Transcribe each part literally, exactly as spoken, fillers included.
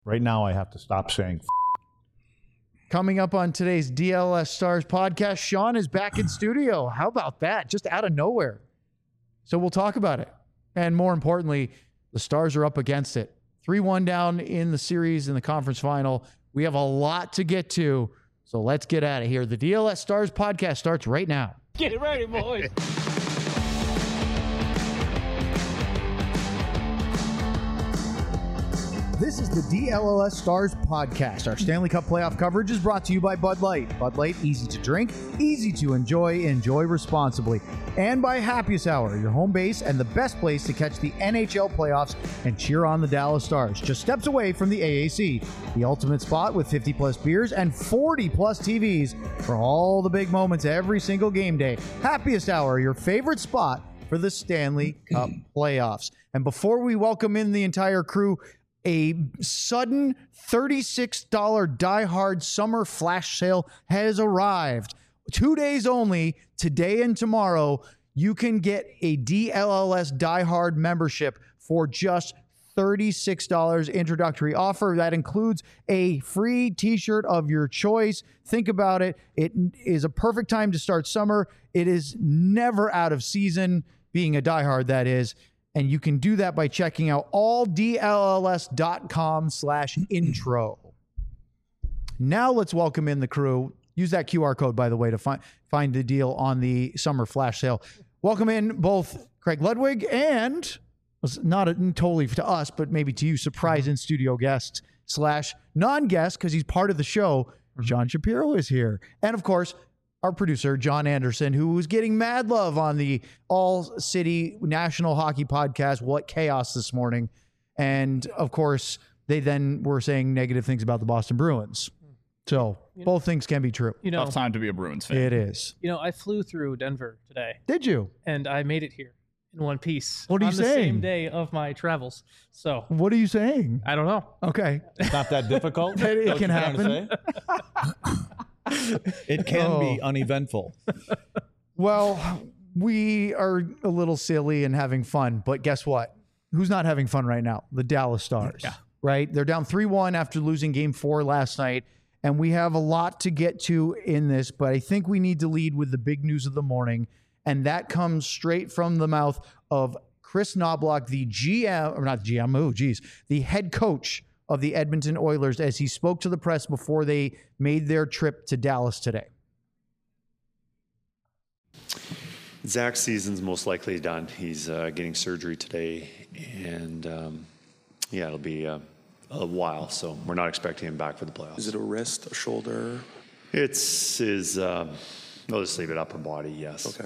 Right now, I have to stop saying f- Coming up on today's D L S Stars podcast, Sean is back in studio. How about that? Just out of nowhere. So we'll talk about it. And more importantly, the Stars are up against it. three one down in the series in the conference final. We have a lot to get to. So let's get out of here. The D L S Stars podcast starts right now. Get ready, boys. This is the D L L S Stars podcast. Our Stanley Cup playoff coverage is brought to you by Bud Light. Bud Light, easy to drink, easy to enjoy, enjoy responsibly. And by Happiest Hour, your home base and the best place to catch the N H L playoffs and cheer on the Dallas Stars. Just steps away from the A A C, the ultimate spot with fifty plus beers and forty plus T Vs for all the big moments every single game day. Happiest Hour, your favorite spot for the Stanley Cup playoffs. And before we welcome in the entire crew, a sudden thirty-six dollars Die Hard summer flash sale has arrived. Two days only, today and tomorrow, you can get a D L L S Die Hard membership for just thirty-six dollars introductory offer. That includes a free t-shirt of your choice. Think about it. It is a perfect time to start summer. It is never out of season, being a Die Hard, that is. And you can do that by checking out all D L L S dot com slash intro. Now let's welcome in the crew. Use that Q R code, by the way, to find find the deal on the summer flash sale. Welcome in both Craig Ludwig and, not a, totally to us, but maybe to you, surprise in studio guest slash non-guest, because he's part of the show. John Shapiro is here. And of course, our producer, John Anderson, who was getting mad love on the All-City National Hockey Podcast, What Chaos, this morning. And, of course, they then were saying negative things about the Boston Bruins. So you both know, things can be true. You know, tough time to be a Bruins fan. It is. You know, I flew through Denver today. Did you? And I made it here in one piece. What are you on saying? The same day of my travels. So what are you saying? I don't know. Okay. It's not that difficult. it it can happen. It can oh. be uneventful. Well, we are a little silly and having fun, but guess what? Who's not having fun right now? The Dallas Stars. Yeah. Right? They're down three one after losing game four last night, and we have a lot to get to in this, but I think we need to lead with the big news of the morning, and that comes straight from the mouth of Chris Knobloch, the G M, or not G M, oh, geez, the head coach of the Edmonton Oilers, as he spoke to the press before they made their trip to Dallas today. Zach's season's most likely done. He's uh, getting surgery today, and um, yeah, it'll be uh, a while, so we're not expecting him back for the playoffs. Is it a wrist, a shoulder? It's his, um, I'll just leave it upper body, yes. Okay.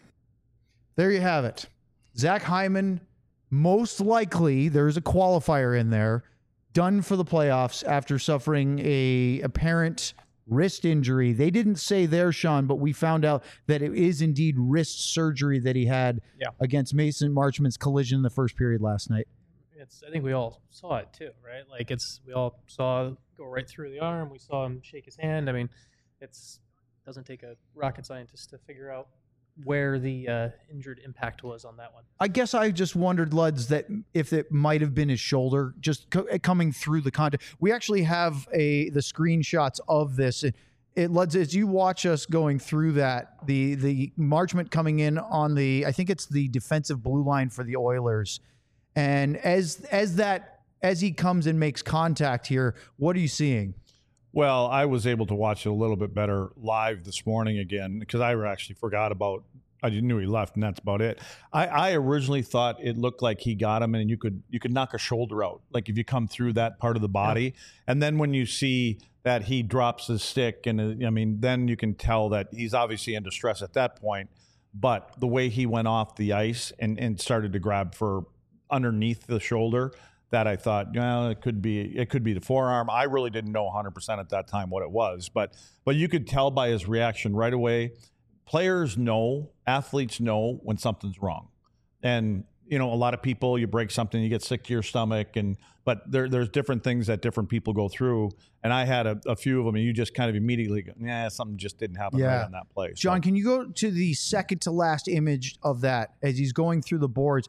There you have it. Zach Hyman, most likely, there's a qualifier in there, done for the playoffs after suffering a apparent wrist injury. They didn't say there, Sean, but we found out that it is indeed wrist surgery that he had yeah. against Mason Marchment's collision in the first period last night. It's. I think we all saw it too, right? Like it's. We all saw it go right through the arm. We saw him shake his hand. I mean, it's doesn't take a rocket scientist to figure out where the uh, injured impact was on that one. I guess I just wondered, Luds, that if it might have been his shoulder just co- coming through the contact. We actually have a the screenshots of this. It, it Luds, as you watch us going through that, the the Marchment coming in on the, I think it's the defensive blue line for the Oilers, and as as that as he comes and makes contact here, what are you seeing? Well, I was able to watch it a little bit better live this morning again because I actually forgot about, I knew he left and that's about it. I, I originally thought it looked like he got him and you could you could knock a shoulder out, like if you come through that part of the body. Yeah. And then when you see that he drops his stick, and uh, I mean, then you can tell that he's obviously in distress at that point. But the way he went off the ice and, and started to grab for underneath the shoulder, that I thought, well, it could be it could be the forearm. I really didn't know one hundred percent at that time what it was, but but you could tell by his reaction right away. Players know, athletes know when something's wrong, and you know a lot of people. You break something, you get sick to your stomach, and but there there's different things that different people go through. And I had a, a few of them, and you just kind of immediately go, yeah, something just didn't happen yeah. right on that play. John, so. Can you go to the second to last image of that as he's going through the boards?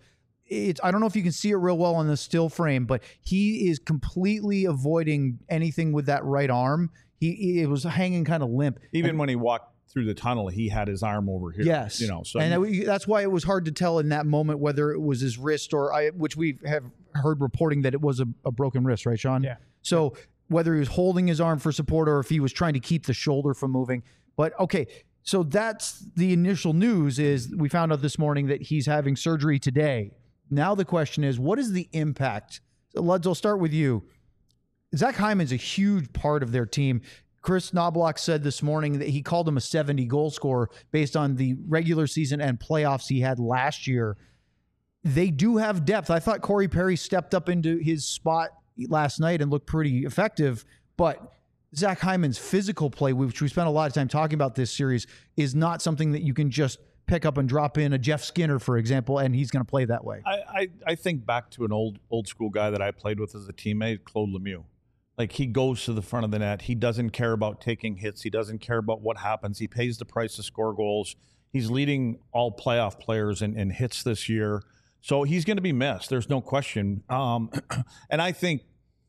it's, I don't know if you can see it real well on the still frame, but he is completely avoiding anything with that right arm. He it was hanging kind of limp. Even and, when he walked through the tunnel, he had his arm over here. Yes, you know, so and I, that's why it was hard to tell in that moment whether it was his wrist or I, which we have heard reporting that it was a, a broken wrist, right, Sean? Yeah. So whether he was holding his arm for support or if he was trying to keep the shoulder from moving. But okay, so that's the initial news. Is we found out this morning that he's having surgery today. Now the question is, what is the impact? So Luds, I'll start with you. Zach Hyman's a huge part of their team. Chris Knobloch said this morning that he called him a seventy goal scorer based on the regular season and playoffs he had last year. They do have depth. I thought Corey Perry stepped up into his spot last night and looked pretty effective, but Zach Hyman's physical play, which we spent a lot of time talking about this series, is not something that you can just pick up and drop in a Jeff Skinner, for example, and he's going to play that way. I, I, I think back to an old old school guy that I played with as a teammate, Claude Lemieux. Like, he goes to the front of the net. He doesn't care about taking hits. He doesn't care about what happens. He pays the price to score goals. He's leading all playoff players in, in hits this year. So he's going to be missed. There's no question. Um, and I think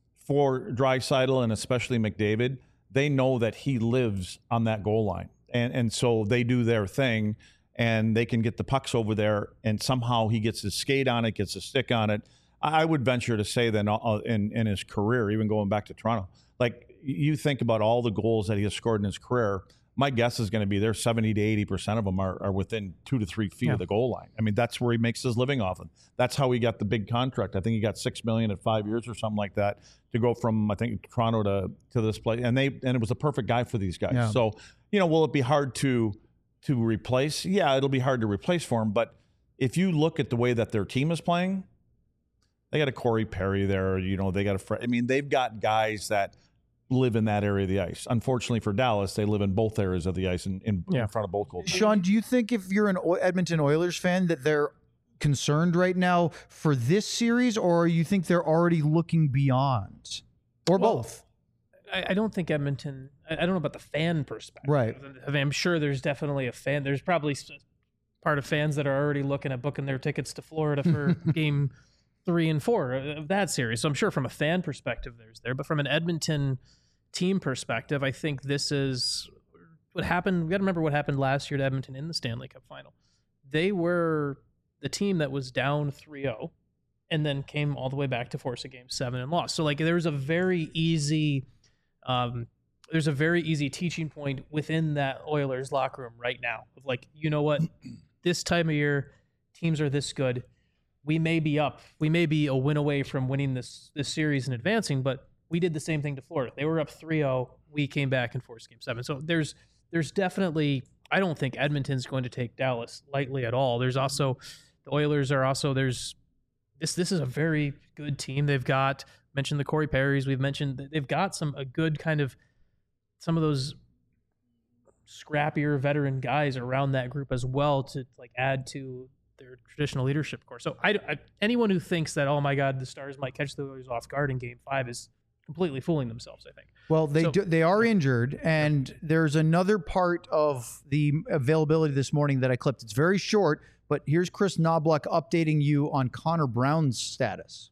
for Draisaitl and especially McDavid, they know that he lives on that goal line. And, and so they do their thing, and they can get the pucks over there, and somehow he gets his skate on it, gets a stick on it. I would venture to say that uh, in, in his career, even going back to Toronto, like, you think about all the goals that he has scored in his career, my guess is going to be there seventy to eighty percent of them are, are within two to three feet yeah. of the goal line. I mean, that's where he makes his living off of. That's how he got the big contract. I think he got six million dollars at five years or something like that to go from, I think, Toronto to, to this place. And they and it was a perfect guy for these guys. Yeah. So, you know, will it be hard to to replace? Yeah, it'll be hard to replace for him. But if you look at the way that their team is playing, they got a Corey Perry there. You know, they got a Fred. I mean, they've got guys that live in that area of the ice. Unfortunately for Dallas, they live in both areas of the ice in, in, Yeah. in front of both goals. Sean, do you think if you're an O- Edmonton Oilers fan that they're concerned right now for this series, or you think they're already looking beyond? Or Well, both? I, I don't think Edmonton. I, I don't know about the fan perspective. Right. I mean, I'm sure there's definitely a fan. There's probably s- part of fans that are already looking at booking their tickets to Florida for game three and four of that series. So I'm sure from a fan perspective, there's there. But from an Edmonton team perspective, I think this is what happened. We got to remember what happened last year to Edmonton in the Stanley Cup final. They were the team that was down three oh and then came all the way back to force a game seven and lost. So like there was a very easy, um, there's a very easy teaching point within that Oilers locker room right now of like, you know what, this time of year, teams are this good. We may be up. We may be a win away from winning this this series and advancing, but we did the same thing to Florida. They were up three oh. We came back and forced game seven. So there's there's definitely, I don't think Edmonton's going to take Dallas lightly at all. There's also, the Oilers are also, there's, this this is a very good team. They've got, mentioned the Corey Perrys, we've mentioned, they've got some, a good kind of, some of those scrappier veteran guys around that group as well to like add to their traditional leadership core. So I, I, anyone who thinks that, oh my God, the Stars might catch the Oilers off guard in game five is completely fooling themselves, I think. Well, they So- do, they are injured, and there's another part of the availability this morning that I clipped. It's very short, but here's Chris Knobloch updating you on Connor Brown's status.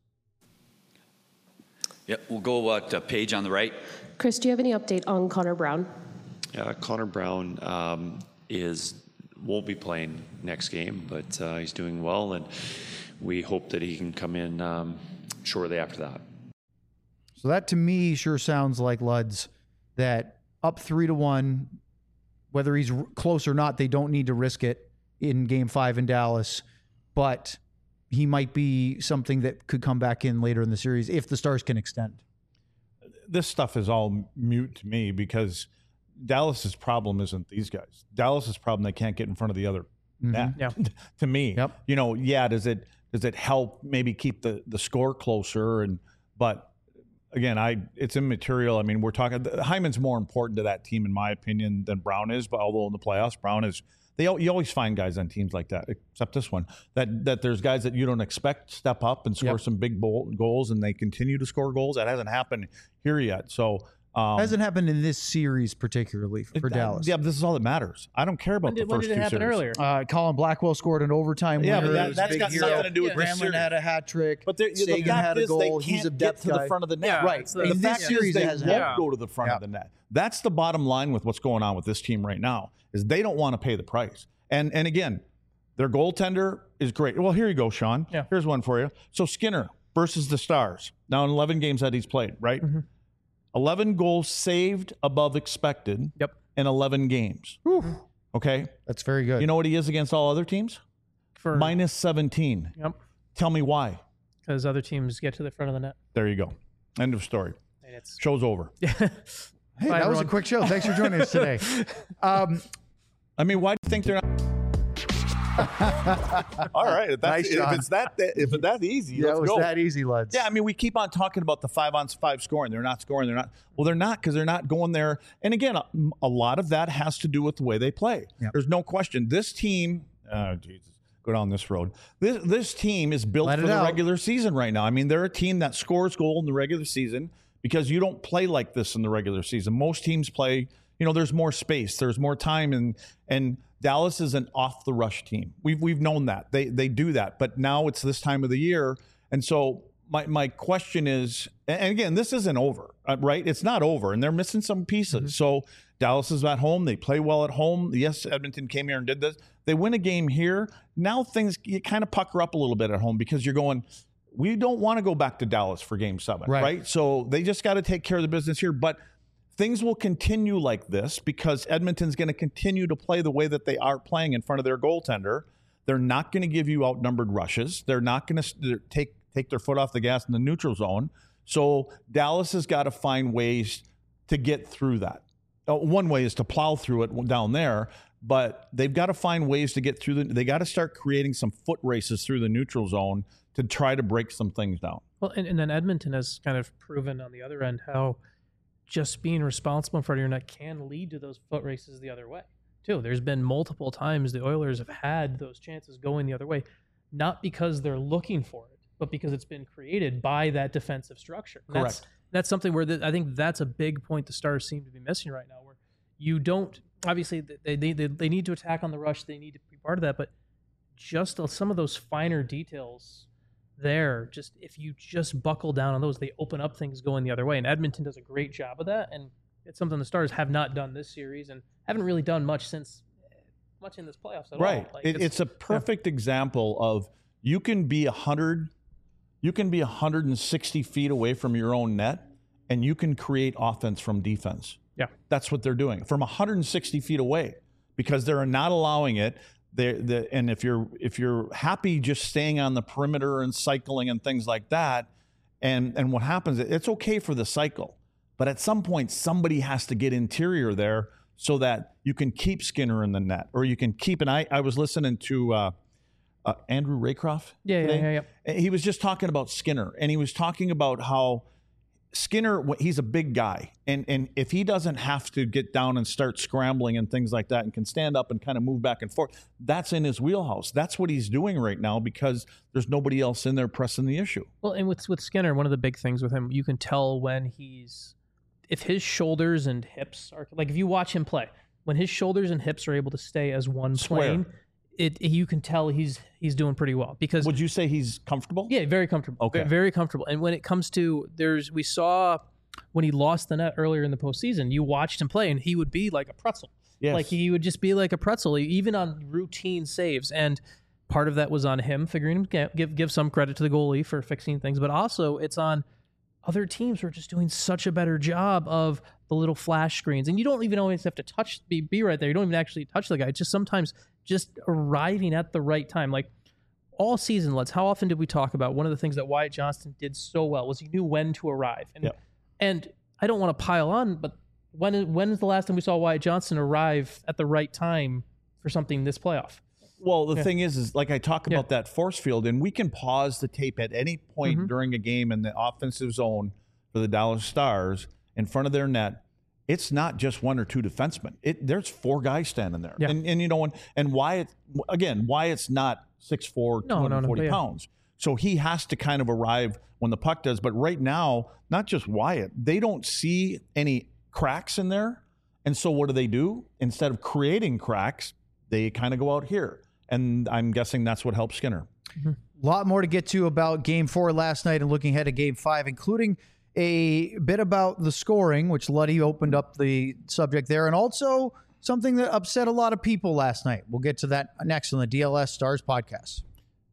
Yep, we'll go what uh, page on the right. Chris, do you have any update on Connor Brown? Uh, Connor Brown um, is won't be playing next game, but uh, he's doing well, and we hope that he can come in um, shortly after that. So that to me sure sounds like Luds, that up three to one, whether he's r- close or not, they don't need to risk it in game five in Dallas, but he might be something that could come back in later in the series if the Stars can extend. This stuff is all mute to me because Dallas's problem isn't these guys. Dallas's problem, they can't get in front of the other net. Yeah. To me, Yep. you know, yeah, does it does it help maybe keep the the score closer? And but again, I it's immaterial. I mean, we're talking Hyman's more important to that team in my opinion than Brown is. But although in the playoffs, Brown is. They al- you always find guys on teams like that, except this one, that that there's guys that you don't expect step up and score Yep. some big bowl, goals, and they continue to score goals. That hasn't happened here yet. So Um, Hasn't happened in this series particularly for that- Dallas. Yeah, but this is all that matters. I don't care about When did, the when first did it two happen series. earlier? Uh, Colin Blackwell scored an overtime Yeah, winner. but that- It was that's big got hero. nothing to do with this Gramlin series. had a hat trick. But the, the Sagan fact had a is goal. they can't He's a get depth to the guy. front of the net. Yeah, Right. it's the- In The this fact series, is it they hasn't won't happened. go to the front Yeah. of the net. That's the bottom line with what's going on with this team right now is they don't want to pay the price. And and again, their goaltender is great. Well, here you go, Sean. Yeah. Here's one for you. So Skinner versus the Stars. Now in eleven games that he's played, right? Mm-hmm. eleven goals saved above expected Yep. in eleven games. Okay? That's very good. You know what he is against all other teams? For Minus seventeen. Yep. Tell me why. Because other teams get to the front of the net. There you go. End of story. And it's Show's over. hey, Bye, that was a everyone. quick show. Thanks for joining us today. Um, I mean, why do you think they're not? All right, if, that's, Nice, if Sean. it's that if it's that easy, yeah, let's it was go. that easy, lads. Yeah, I mean, we keep on talking about the five on five scoring. They're not scoring. They're not. Well, they're not because they're not going there. And again, a, a lot of that has to do with the way they play. Yep. There's no question. This team, oh Jesus, go down this road. This this team is built Let for it the out. regular season right now. I mean, they're a team that scores goal in the regular season because you don't play like this in the regular season. Most teams play. You know, there's more space. There's more time, and and Dallas is an off the rush team. We've we've known that they they do that, but now it's this time of the year, and so my my question is, and again, this isn't over, uh, right? It's not over, and they're missing some pieces. Mm-hmm. So Dallas is at home. They play well at home. Yes, Edmonton came here and did this. They win a game here. Now things you kind of pucker up a little bit at home because you're going. We don't want to go back to Dallas for Game Seven, Right. right? So they just got to take care of the business here, but. Things will continue like this because Edmonton's going to continue to play the way that they are playing in front of their goaltender. They're not going to give you outnumbered rushes. They're not going to take take their foot off the gas in the neutral zone. So Dallas has got to find ways to get through that. Uh, one way is to plow through it down there, but they've got to find ways to get through the. They got to start creating some foot races through the neutral zone to try to break some things down. Well, and, and then Edmonton has kind of proven on the other end how just being responsible in front of your net can lead to those foot races the other way, too. There's been multiple times the Oilers have had those chances going the other way, not because they're looking for it, but because it's been created by that defensive structure. And That's, Correct. that's something where the, I think that's a big point the Stars seem to be missing right now, where you don't, obviously, they, they, they, they need to attack on the rush. They need to be part of that, but just some of those finer details there, just if you just buckle down on those, they open up things going the other way. And Edmonton does a great job of that. And it's something the Stars have not done this series and haven't really done much since much in this playoffs at Right. all. Like, It, it's, a perfect example of you can be a hundred, you can be one hundred sixty feet away from your own net, and you can create offense from defense. Yeah. That's what they're doing from one hundred sixty feet away because they're not allowing it. They're, they're, and if you're if you're happy just staying on the perimeter and cycling and things like that, and and what happens, it's okay for the cycle, but at some point somebody has to get interior there so that you can keep Skinner in the net, or you can keep. And I I was listening to uh, uh, Andrew Raycroft. Yeah, yeah, today. yeah, yeah. He was just talking about Skinner, and he was talking about how Skinner, he's a big guy, and and if he doesn't have to get down and start scrambling and things like that and can stand up and kind of move back and forth, that's in his wheelhouse. That's what he's doing right now because there's nobody else in there pressing the issue. Well, and with with Skinner, one of the big things with him, you can tell when he's, if his shoulders and hips are, like if you watch him play, when his shoulders and hips are able to stay as one Square. plane, it you can tell he's he's doing pretty well because Would you say he's comfortable? yeah, very comfortable. Okay. Ve- very comfortable. And when it comes to there's, we saw when he lost the net earlier in the postseason, you watched him play, and he would be like a pretzel. Yes. Like he would just be like a pretzel, even on routine saves. And part of that was on him figuring to give give some credit to the goalie for fixing things, but also it's on other teams who are just doing such a better job of the little flash screens. And you don't even always have to touch be be right there. You don't even actually touch the guy. It's just sometimes just arriving at the right time. Like all season, let's how often did we talk about one of the things that Wyatt Johnston did so well was he knew when to arrive. And Yep. and I don't want to pile on, but when is, when is the last time we saw Wyatt Johnston arrive at the right time for something this playoff? Well, the Yeah. thing is, is like I talk about that force field, and we can pause the tape at any point Mhm. during a game in the offensive zone for the Dallas Stars in front of their net. It's not just one or two defensemen. It there's four guys standing there, Yeah. and and you know, and, and Wyatt again, Wyatt's not six four, No, no, two hundred forty no, but yeah. pounds. So he has to kind of arrive when the puck does. But right now, not just Wyatt, they don't see any cracks in there. And so what do they do? Instead of creating cracks, they kind of go out here. And I'm guessing that's what helps Skinner. A lot more to get to about game four last night and looking ahead to game five, including a bit about the scoring, which Luddy opened up the subject there, and also something that upset a lot of people last night. We'll get to that next on the D L S Stars podcast.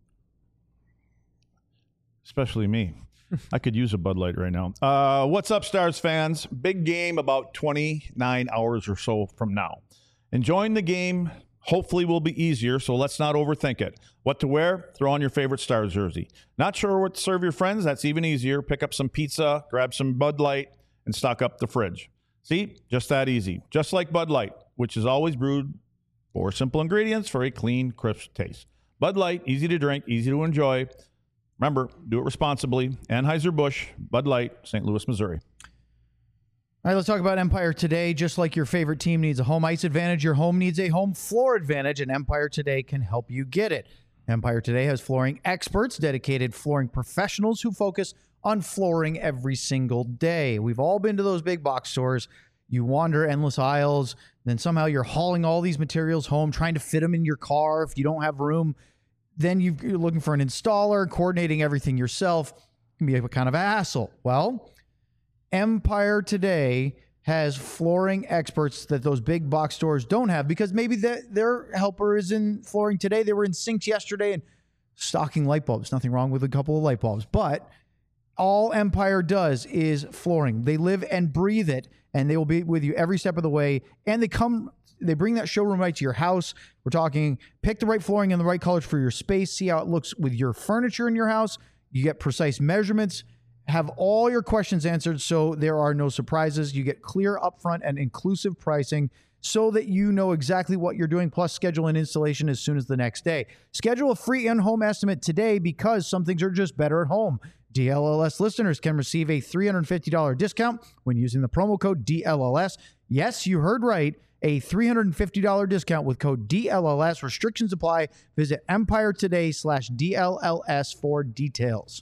Especially me. I could use a Bud Light right now. Uh, what's up, Stars fans? Big game about twenty-nine hours or so from now. Enjoying the game hopefully will be easier, so let's not overthink it. What to wear? Throw on your favorite Stars jersey. Not sure what to serve your friends? That's even easier. Pick up some pizza, grab some Bud Light, and stock up the fridge. See? Just that easy. Just like Bud Light, which is always brewed for simple ingredients for a clean, crisp taste. Bud Light, easy to drink, easy to enjoy. Remember, do it responsibly. Anheuser-Busch, Bud Light, Saint Louis, Missouri. All right, let's talk about Empire Today. Just like your favorite team needs a home ice advantage, your home needs a home floor advantage, and Empire Today can help you get it. Empire Today has flooring experts, dedicated flooring professionals who focus on flooring every single day. We've all been to those big box stores. You wander endless aisles, then somehow you're hauling all these materials home, trying to fit them in your car. If you don't have room, then you're looking for an installer, coordinating everything yourself. It can be a kind of a hassle. Well, Empire Today has flooring experts that those big box stores don't have, because maybe the, their helper is in flooring today. They were in sinks yesterday and stocking light bulbs. Nothing wrong with a couple of light bulbs, but all Empire does is flooring. They live and breathe it, and they will be with you every step of the way. And they come, they bring that showroom right to your house. We're talking pick the right flooring and the right colors for your space. See how it looks with your furniture in your house. You get precise measurements. Have all your questions answered so there are no surprises. You get clear upfront and inclusive pricing so that you know exactly what you're doing, plus schedule an installation as soon as the next day. Schedule a free in-home estimate today, because some things are just better at home. D L L S listeners can receive a three hundred fifty dollars discount when using the promo code D L L S. Yes, you heard right. A three hundred fifty dollars discount with code D L L S. Restrictions apply. Visit Empire Today slash D L L S for details.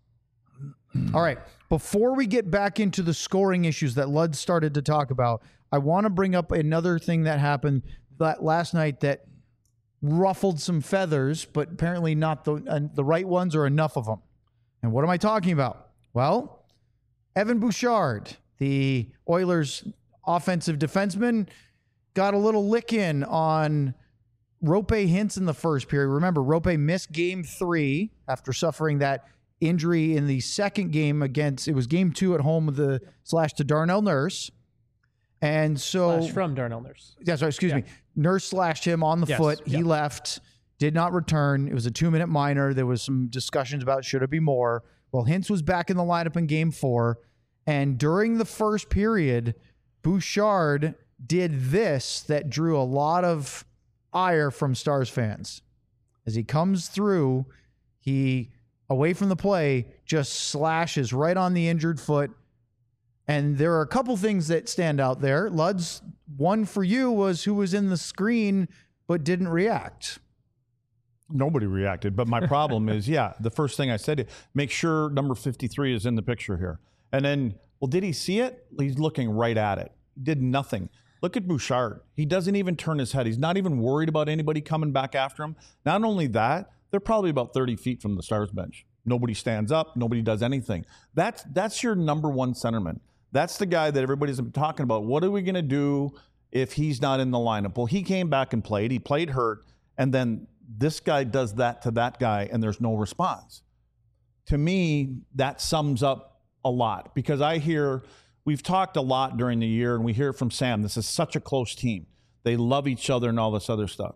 All right. Before we get back into the scoring issues that Lud started to talk about, I want to bring up another thing that happened that last night that ruffled some feathers, but apparently not the uh, the right ones or enough of them. And what am I talking about? Well, Evan Bouchard, the Oilers' offensive defenseman, got a little lick in on Roope Hintz in the first period. Remember, Roope missed game three after suffering that injury in the second game against, it was game two at home with the slash to Darnell Nurse. And so Slash from Darnell Nurse. Yeah, sorry, excuse Yeah. me. Nurse slashed him on the Yes, foot. He yep. left, did not return. It was a two-minute minor. There was some discussions about should it be more. Well, Hintz was back in the lineup in game four. And during the first period, Bouchard did this that drew a lot of ire from Stars fans. As he comes through, he, away from the play, just slashes right on the injured foot. And there are a couple things that stand out there. Lud's one for you was who was in the screen but didn't react. Nobody reacted. But my problem is, yeah, the first thing I said, make sure number fifty-three is in the picture here. And then, well, did he see it? He's looking right at it. Did nothing. Look at Bouchard. He doesn't even turn his head. He's not even worried about anybody coming back after him. Not only that, they're probably about thirty feet from the Stars bench. Nobody stands up. Nobody does anything. That's that's your number one centerman. That's the guy that everybody's been talking about. What are we going to do if he's not in the lineup? Well, he came back and played. He played hurt. And then this guy does that to that guy, and there's no response. To me, that sums up a lot, because I hear, we've talked a lot during the year, and we hear it from Sam. This is such a close team. They love each other and all this other stuff.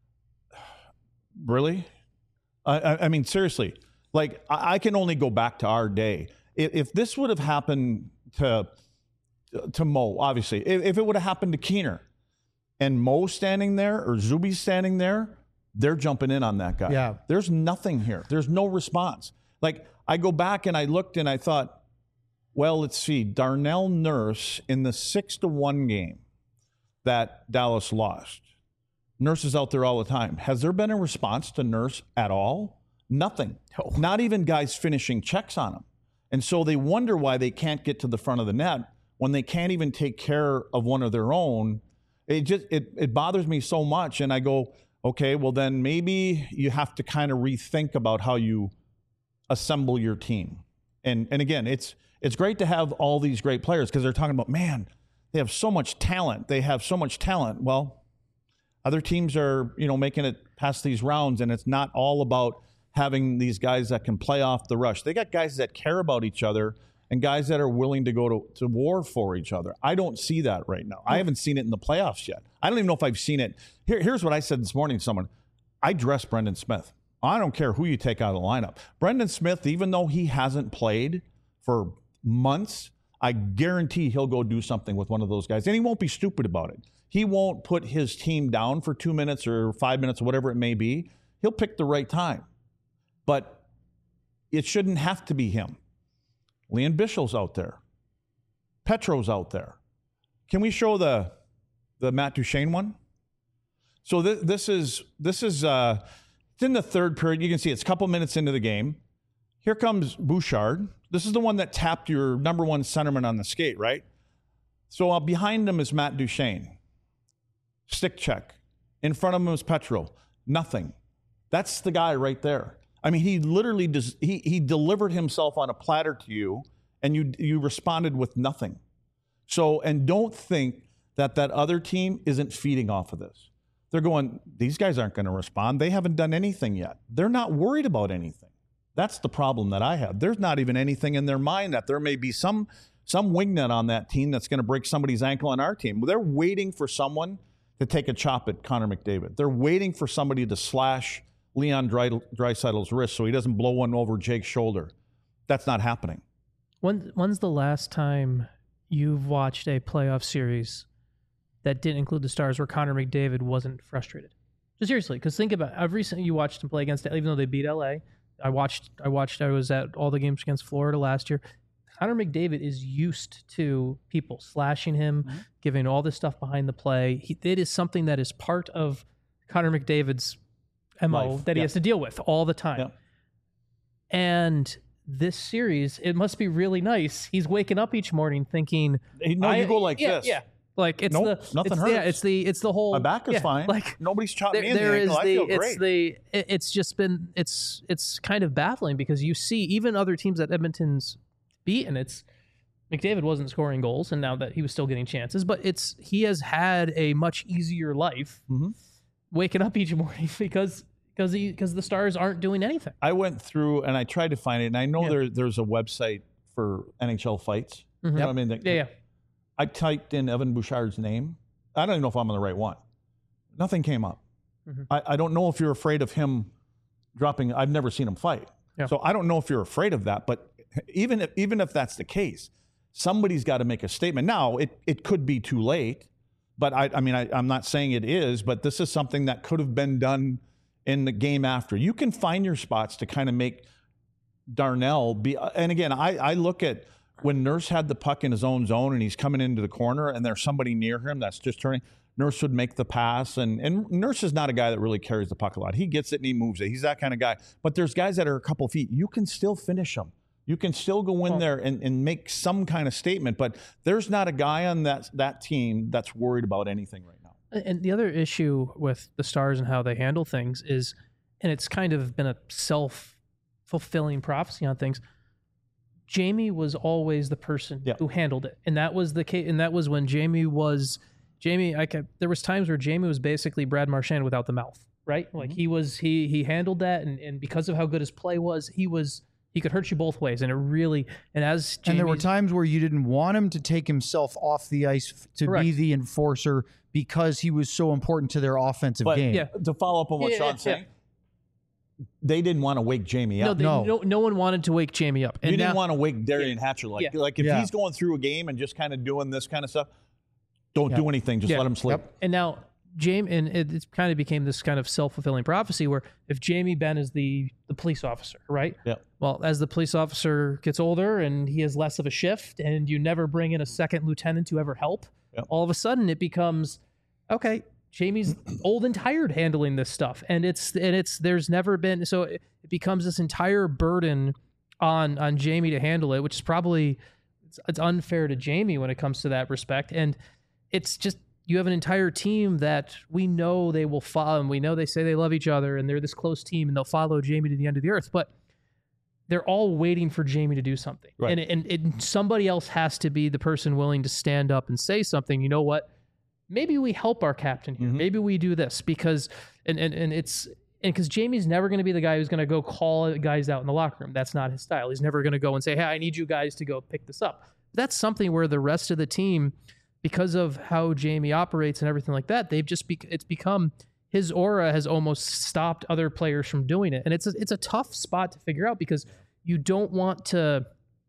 Really? I, I, I mean, seriously. Like, I, I can only go back to our day. If, if this would have happened to to Mo, obviously, if, if it would have happened to Keener and Mo standing there or Zuby standing there, they're jumping in on that guy. Yeah. There's nothing here. There's no response. Like, I go back and I looked and I thought, well, let's see, Darnell Nurse in the six to one game that Dallas lost. Nurse is out there all the time. Has there been a response to Nurse at all? Nothing. Not even guys finishing checks on them. And so they wonder why they can't get to the front of the net when they can't even take care of one of their own. It just it it bothers me so much. And I go, okay, well then maybe you have to kind of rethink about how you assemble your team. And and again, it's it's great to have all these great players because they're talking about, man, they have so much talent. They have so much talent. Well, other teams are, you know, making it past these rounds, and it's not all about having these guys that can play off the rush. They got guys that care about each other and guys that are willing to go to, to war for each other. I don't see that right now. I haven't seen it in the playoffs yet. I don't even know if I've seen it. Here, here's what I said this morning to someone. I dress Brendan Smith. I don't care who you take out of the lineup. Brendan Smith, even though he hasn't played for months, I guarantee he'll go do something with one of those guys. And he won't be stupid about it. He won't put his team down for two minutes or five minutes or whatever it may be. He'll pick the right time. But it shouldn't have to be him. Leon Bischel's out there. Petro's out there. Can we show the the Matt Duchene one? So th- this is this is uh, it's in the third period. You can see it's a couple minutes into the game. Here comes Bouchard. This is the one that tapped your number one centerman on the skate, right? So uh, behind him is Matt Duchene. Stick check. In front of him is Petro. Nothing. That's the guy right there. I mean, he literally does, he he delivered himself on a platter to you, and you you responded with nothing. So, and don't think that that other team isn't feeding off of this. They're going, these guys aren't going to respond. They haven't done anything yet. They're not worried about anything. That's the problem that I have. There's not even anything in their mind that there may be some some wingnut on that team that's going to break somebody's ankle on our team. They're waiting for someone to take a chop at Connor McDavid. They're waiting for somebody to slash Leon Draisaitl's wrist so he doesn't blow one over Jake's shoulder. That's not happening. When, when's the last time you've watched a playoff series that didn't include the Stars where Connor McDavid wasn't frustrated? Just seriously, because think about it. I've recently you watched him play against, even though they beat L A. I watched, I watched, I was at all the games against Florida last year. Connor McDavid is used to people slashing him, mm-hmm. giving all this stuff behind the play. He, it is something that is part of Connor McDavid's M O Life. that he yeah. has to deal with all the time. Yeah. And this series, it must be really nice. He's waking up each morning thinking, no, you go like yeah, this. Yeah. Like it's nope, the nothing it's, hurts. Yeah, it's the it's the whole my back is yeah, fine. Like nobody's chopped there, me in there the ankle. is I the feel it's great. the it, it's just been it's it's kind of baffling because you see even other teams that Edmonton's beaten. It's McDavid wasn't scoring goals, and now that he was still getting chances, but it's he has had a much easier life mm-hmm. waking up each morning because because because the Stars aren't doing anything. I went through and I tried to find it, and I know yeah. there there's a website for N H L fights. Mm-hmm. You know what I mean? That, yeah, yeah. I typed in Evan Bouchard's name. I don't even know if I'm on the right one. Nothing came up. Mm-hmm. I, I don't know if you're afraid of him dropping. I've never seen him fight. Yeah. So I don't know if you're afraid of that. But even if, even if that's the case, somebody's got to make a statement. Now, it, it could be too late. But I, I mean, I, I'm not saying it is. But this is something that could have been done in the game after. You can find your spots to kind of make Darnell be. And again, I, I look at when Nurse had the puck in his own zone and he's coming into the corner and there's somebody near him that's just turning, Nurse would make the pass. And, and Nurse is not a guy that really carries the puck a lot. He gets it and he moves it. He's that kind of guy. But there's guys that are a couple feet. You can still finish them. You can still go in there and, and make some kind of statement. But there's not a guy on that, that team that's worried about anything right now. And the other issue with the Stars and how they handle things is, and it's kind of been a self-fulfilling prophecy on things, Jamie was always the person yeah. who handled it, and that was the case. And that was when Jamie was Jamie. I kept, there was times where Jamie was basically Brad Marchand without the mouth, right? Like mm-hmm. he was he he handled that, and, and because of how good his play was, he was he could hurt you both ways, and it really and as Jamie's, and there were times where you didn't want him to take himself off the ice to correct. be the enforcer because he was so important to their offensive but, game. Yeah, to follow up on what yeah, Sean's yeah. saying. They didn't want to wake Jamie no, up. They, no, no, no one wanted to wake Jamie up. And you didn't now, want to wake Darian yeah. Hatcher like Yeah. like if Yeah. he's going through a game and just kind of doing this kind of stuff. Don't Yeah. do anything. Just Yeah. let him sleep. Yep. And now Jamie, and it, it kind of became this kind of self-fulfilling prophecy where if Jamie Benn is the the police officer, right? Yeah. Well, as the police officer gets older and he has less of a shift, and you never bring in a second lieutenant to ever help, Yep. all of a sudden it becomes, okay, Jamie's old and tired handling this stuff, and it's and it's there's never been so it becomes this entire burden on on Jamie to handle it, which is probably it's, it's unfair to Jamie when it comes to that respect. And it's just you have an entire team that we know they will follow, and we know they say they love each other, and they're this close team, and they'll follow Jamie to the end of the earth, but they're all waiting for Jamie to do something. Right. And, and and somebody else has to be the person willing to stand up and say something. You know what? Maybe we help our captain here. Mm-hmm. Maybe we do this because, and and, and it's, and because Jamie's never going to be the guy who's going to go call guys out in the locker room. That's not his style. He's never going to go and say, hey, I need you guys to go pick this up. That's something where the rest of the team, because of how Jamie operates and everything like that, they've just, be, it's become, his aura has almost stopped other players from doing it. And it's a, it's a tough spot to figure out because you don't want to,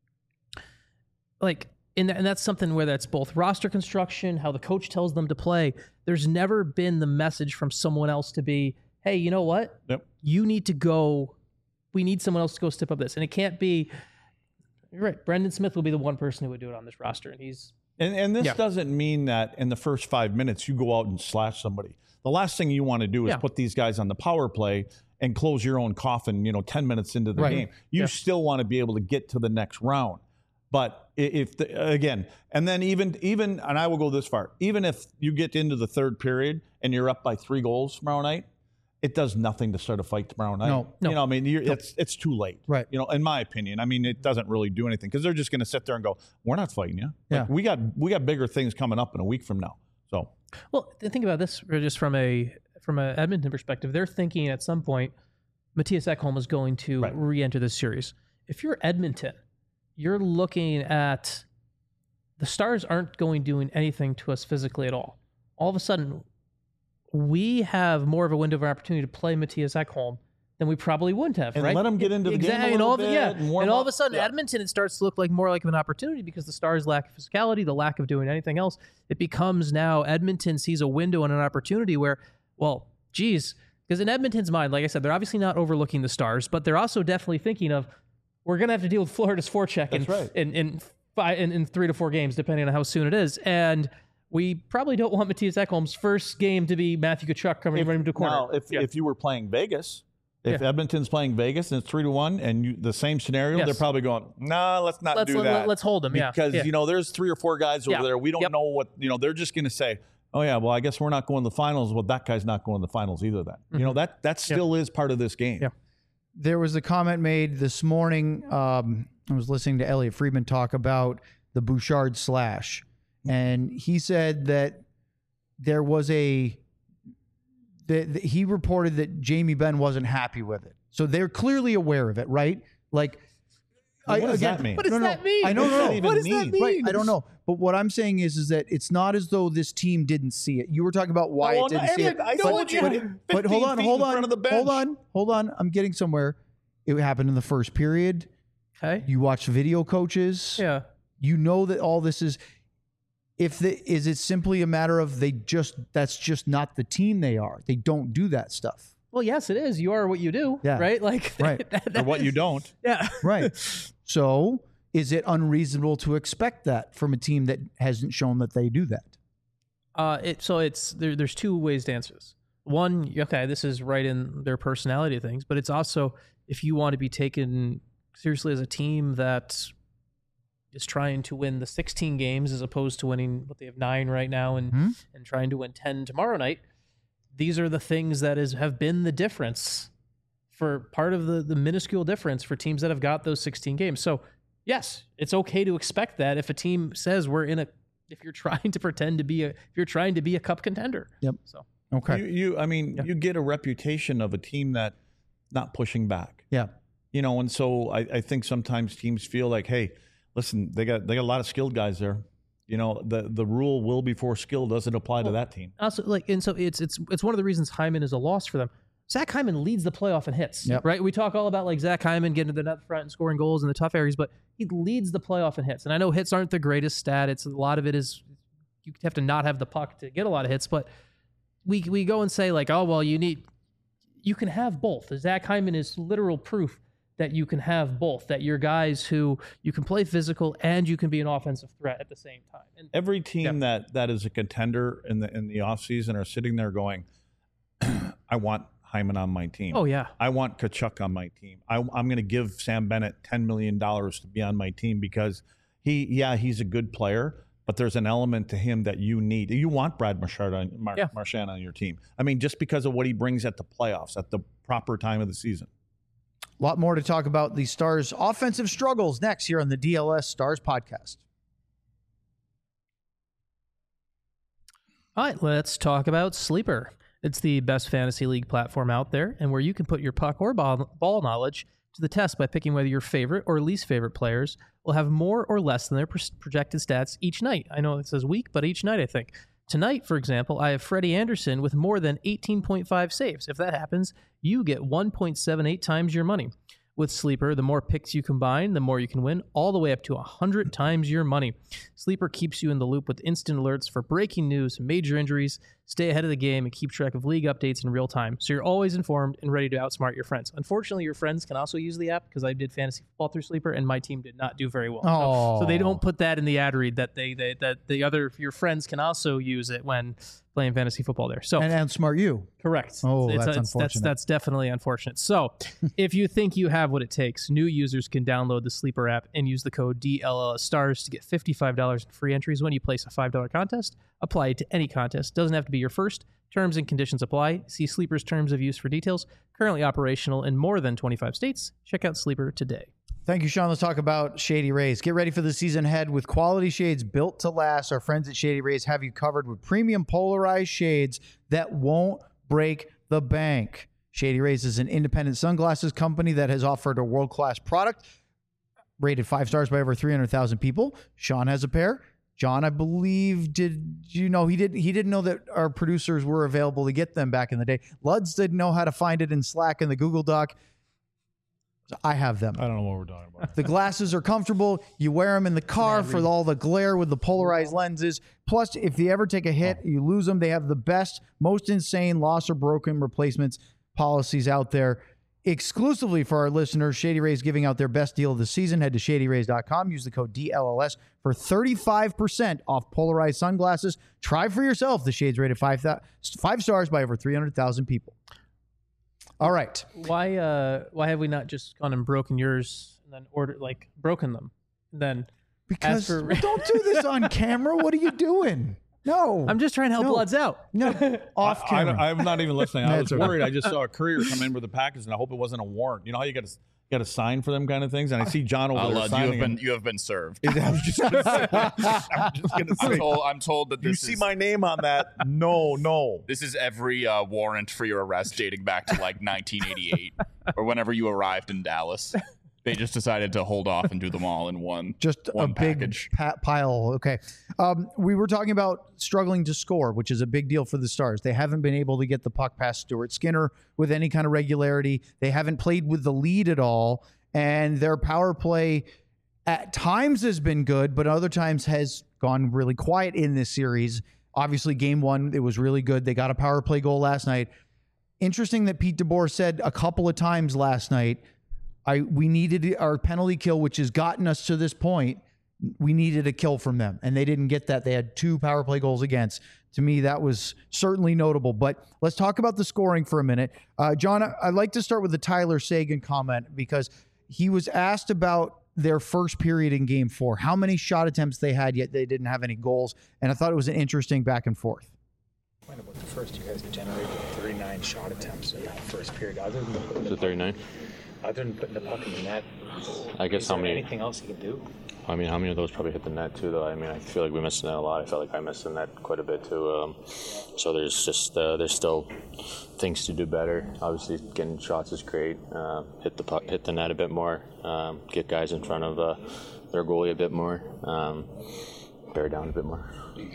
like, and, and that's something where that's both roster construction, how the coach tells them to play. There's never been the message from someone else to be, hey, you know what? Yep. You need to go, we need someone else to go step up this. And it can't be, you're right, Brendan Smith will be the one person who would do it on this roster. And he's, And, and this Yeah. doesn't mean that in the first five minutes you go out and slash somebody. The last thing you want to do is Yeah. put these guys on the power play and close your own coffin, you know, ten minutes into the Right. game. You Yeah. still want to be able to get to the next round. But i- if, the, again, and then even, even, and I will go this far, even if you get into the third period and you're up by three goals tomorrow night, it does nothing to start a fight tomorrow night. No. No. You know, I mean, you're, it's it's too late. Right. You know, in my opinion, I mean, it doesn't really do anything because they're just going to sit there and go, "We're not fighting you. Yeah. Like, we got we got bigger things coming up in a week from now." So well, th- think about this just from a, from a Edmonton perspective. They're thinking at some point, Matthias Ekholm is going to Right. re-enter this series. If you're Edmonton, you're looking at the Stars aren't going doing anything to us physically at all. All of a sudden, we have more of a window of opportunity to play Matthias Ekholm than we probably wouldn't have, And right? let him get into the game a Exactly. and little all of, it- yeah. bit and warm And all of up. a sudden, Yeah. Edmonton, it starts to look like more like an opportunity because the Stars' lack of physicality, the lack of doing anything else, it becomes now Edmonton sees a window and an opportunity where, well, geez, because in Edmonton's mind, like I said, they're obviously not overlooking the Stars, but they're also definitely thinking of, we're going to have to deal with Florida's forecheck in, That's right. in, in, five, in, in three to four games, depending on how soon it is. And we probably don't want Matthias Ekholm's first game to be Matthew Tkachuk coming if, running to corner. now, if Yeah. if you were playing Vegas, if Yeah. Edmonton's playing Vegas and it's three to one, and you, the same scenario, Yes. they're probably going, "Nah, let's not let's, do let, that." let's hold them, yeah. because yeah. you know there's three or four guys over Yeah. there. We don't Yep. know what you know. They're just going to say, "Oh yeah, well I guess we're not going to the finals." Well, that guy's not going to the finals either. Then you know that that still is part of this game. Yeah. There was a comment made this morning. Um, I was listening to Elliot Friedman talk about the Bouchard slash, and he said that there was a that that he reported that Jamie Benn wasn't happy with it. So they're clearly aware of it, right? Like, What does again, that mean? What does no, no, that mean? I know, What does no, that no. even What does that mean? Right, I don't know. But what I'm saying is, is that it's not as though this team didn't see it. You were talking about why well, it didn't no, see it. and I but, told you, but, it- but hold fifteen on, feet hold in on, front of the bench. hold on, hold on. I'm getting somewhere. It happened in the first period. Okay. You watch video coaches. Yeah. You know that all this is. If the is it simply a matter of they just that's just not the team they are. They don't do that stuff. Well, yes, it is. You are what you do, Yeah. right? Like, Right. that- Or that what you is- don't. Yeah. Right. So is it unreasonable to expect that from a team that hasn't shown that they do that? Uh, it, so it's there, there's two ways to answer this. One, okay, this is right in their personality of things, but it's also if you want to be taken seriously as a team that is trying to win the sixteen games as opposed to winning what they have nine right now and Mhm. and trying to win ten tomorrow night. These are the things that is have been the difference for part of the the minuscule difference for teams that have got those sixteen games. So yes, it's okay to expect that if a team says we're in a if you're trying to pretend to be a if you're trying to be a cup contender. Yep. So Okay. You, you I mean, Yeah. you get a reputation of a team that not pushing back. yeah. You know, and so I, I think sometimes teams feel like, hey, listen, they got they got a lot of skilled guys there. You know, the the rule will before skill doesn't apply to that team. also like and so it's it's it's one of the reasons Hyman is a loss for them. Zach Hyman leads the playoff in hits, Yep. right? We talk all about like Zach Hyman getting to the net front and scoring goals in the tough areas, but he leads the playoff in hits. And I know hits aren't the greatest stat. It's a lot of it is you have to not have the puck to get a lot of hits, but we we go and say like, oh well, you need you can have both. Zach Hyman is literal proof that you can have both, that you're guys who you can play physical and you can be an offensive threat at the same time. And every team yeah. that that is a contender in the in the offseason are sitting there going, I want Hyman on my team. Oh, yeah. I want Tkachuk on my team. I, I'm going to give Sam Bennett ten million dollars to be on my team because he, yeah, he's a good player, but there's an element to him that you need. You want Brad Marchand on, Mar- yeah. Marchand on your team. I mean, just because of what he brings at the playoffs, at the proper time of the season. A lot more to talk about the Stars' offensive struggles next here on the D L S Stars podcast. All right, let's talk about Sleeper. It's the best fantasy league platform out there, and where you can put your puck or ball, ball knowledge to the test by picking whether your favorite or least favorite players will have more or less than their projected stats each night. I know it says week, but each night, I think. Tonight, for example, I have Freddie Anderson with more than eighteen point five saves. If that happens, you get one point seven eight times your money. With Sleeper, the more picks you combine, the more you can win, all the way up to one hundred times your money. Sleeper keeps you in the loop with instant alerts for breaking news, major injuries, stay ahead of the game, and keep track of league updates in real time, so you're always informed and ready to outsmart your friends. Unfortunately, your friends can also use the app because I did fantasy football through Sleeper, and my team did not do very well. So, so they don't put that in the ad read that they, they that the other your friends can also use it when playing fantasy football there. So and outsmart you. Correct. Oh, it's, that's it's, unfortunate. That's, that's definitely unfortunate. So if you think you have what it takes, new users can download the Sleeper app and use the code D L L S Stars to get fifty-five dollars in free entries when you place a five dollar contest. Apply it to any contest. Doesn't have to be your first. Terms and conditions apply. See Sleeper's terms of use for details. Currently operational in more than twenty-five states. Check out Sleeper today. Thank you, Sean. Let's talk about Shady Rays. Get ready for the season ahead with quality shades built to last. Our friends at Shady Rays have you covered with premium polarized shades that won't break the bank. Shady Rays is an independent sunglasses company that has offered a world-class product, rated five stars by over three hundred thousand people. Sean has a pair. John, I believe, did you know he did he didn't know that our producers were available to get them back in the day. Luds didn't know how to find it in Slack and the Google Doc. I have them. I don't know what we're talking about. The glasses are comfortable. You wear them in the car for all the glare with the polarized lenses. Plus, if you ever take a hit, you lose them. They have the best, most insane loss or broken replacements policies out there. Exclusively for our listeners, Shady Rays giving out their best deal of the season. Head to shady rays dot com. Use the code D L L S for thirty-five percent off polarized sunglasses. Try for yourself. The shades rated five, five stars by over three hundred thousand people. All right. Why uh why have we not just gone and broken yours and then ordered like broken them? And then Because for... don't do this on camera. What are you doing? No. I'm just trying to help no. Bloods out. No. Off I, camera. I, I'm not even listening. I was That's worried. I just saw a courier come in with a package, and I hope it wasn't a warrant. You know how you got to got to sign for them kind of things, and I see John over I'll, there uh, signing. you have been them. you have been served. I was just gonna say, I'm just gonna say. I'm told, I'm told that You this see is, my name on that? No, no. this is every uh, warrant for your arrest dating back to like nineteen eighty-eight or whenever you arrived in Dallas. They just decided to hold off and do them all in one. Just one a big package. pa- pile. Okay. Um, we were talking about struggling to score, which is a big deal for the Stars. They haven't been able to get the puck past Stuart Skinner with any kind of regularity. They haven't played with the lead at all. And their power play at times has been good, but other times has gone really quiet in this series. Obviously, game one, it was really good. They got a power play goal last night. Interesting that Pete DeBoer said a couple of times last night, I we needed our penalty kill, which has gotten us to this point. We needed a kill from them, and they didn't get that. They had two power play goals against. To me, that was certainly notable. But let's talk about the scoring for a minute. Uh, John, I'd like to start with the Tyler Seguin comment because he was asked about their first period in game four, how many shot attempts they had, yet they didn't have any goals. And I thought it was an interesting back and forth. Point about the first, you guys generated thirty-nine shot attempts in that first period. Other than putting Was the it thirty-nine? Other than putting the puck in the net, I guess is how there many? anything else you can do? I mean, how many of those probably hit the net too? Though I mean, I feel like we missed the net a lot. I felt like I missed the net quite a bit too. Um, so there's just uh, there's still things to do better. Obviously, getting shots is great. Uh, hit the puck, hit the net a bit more. Um, get guys in front of uh, their goalie a bit more. Um, bear down a bit more.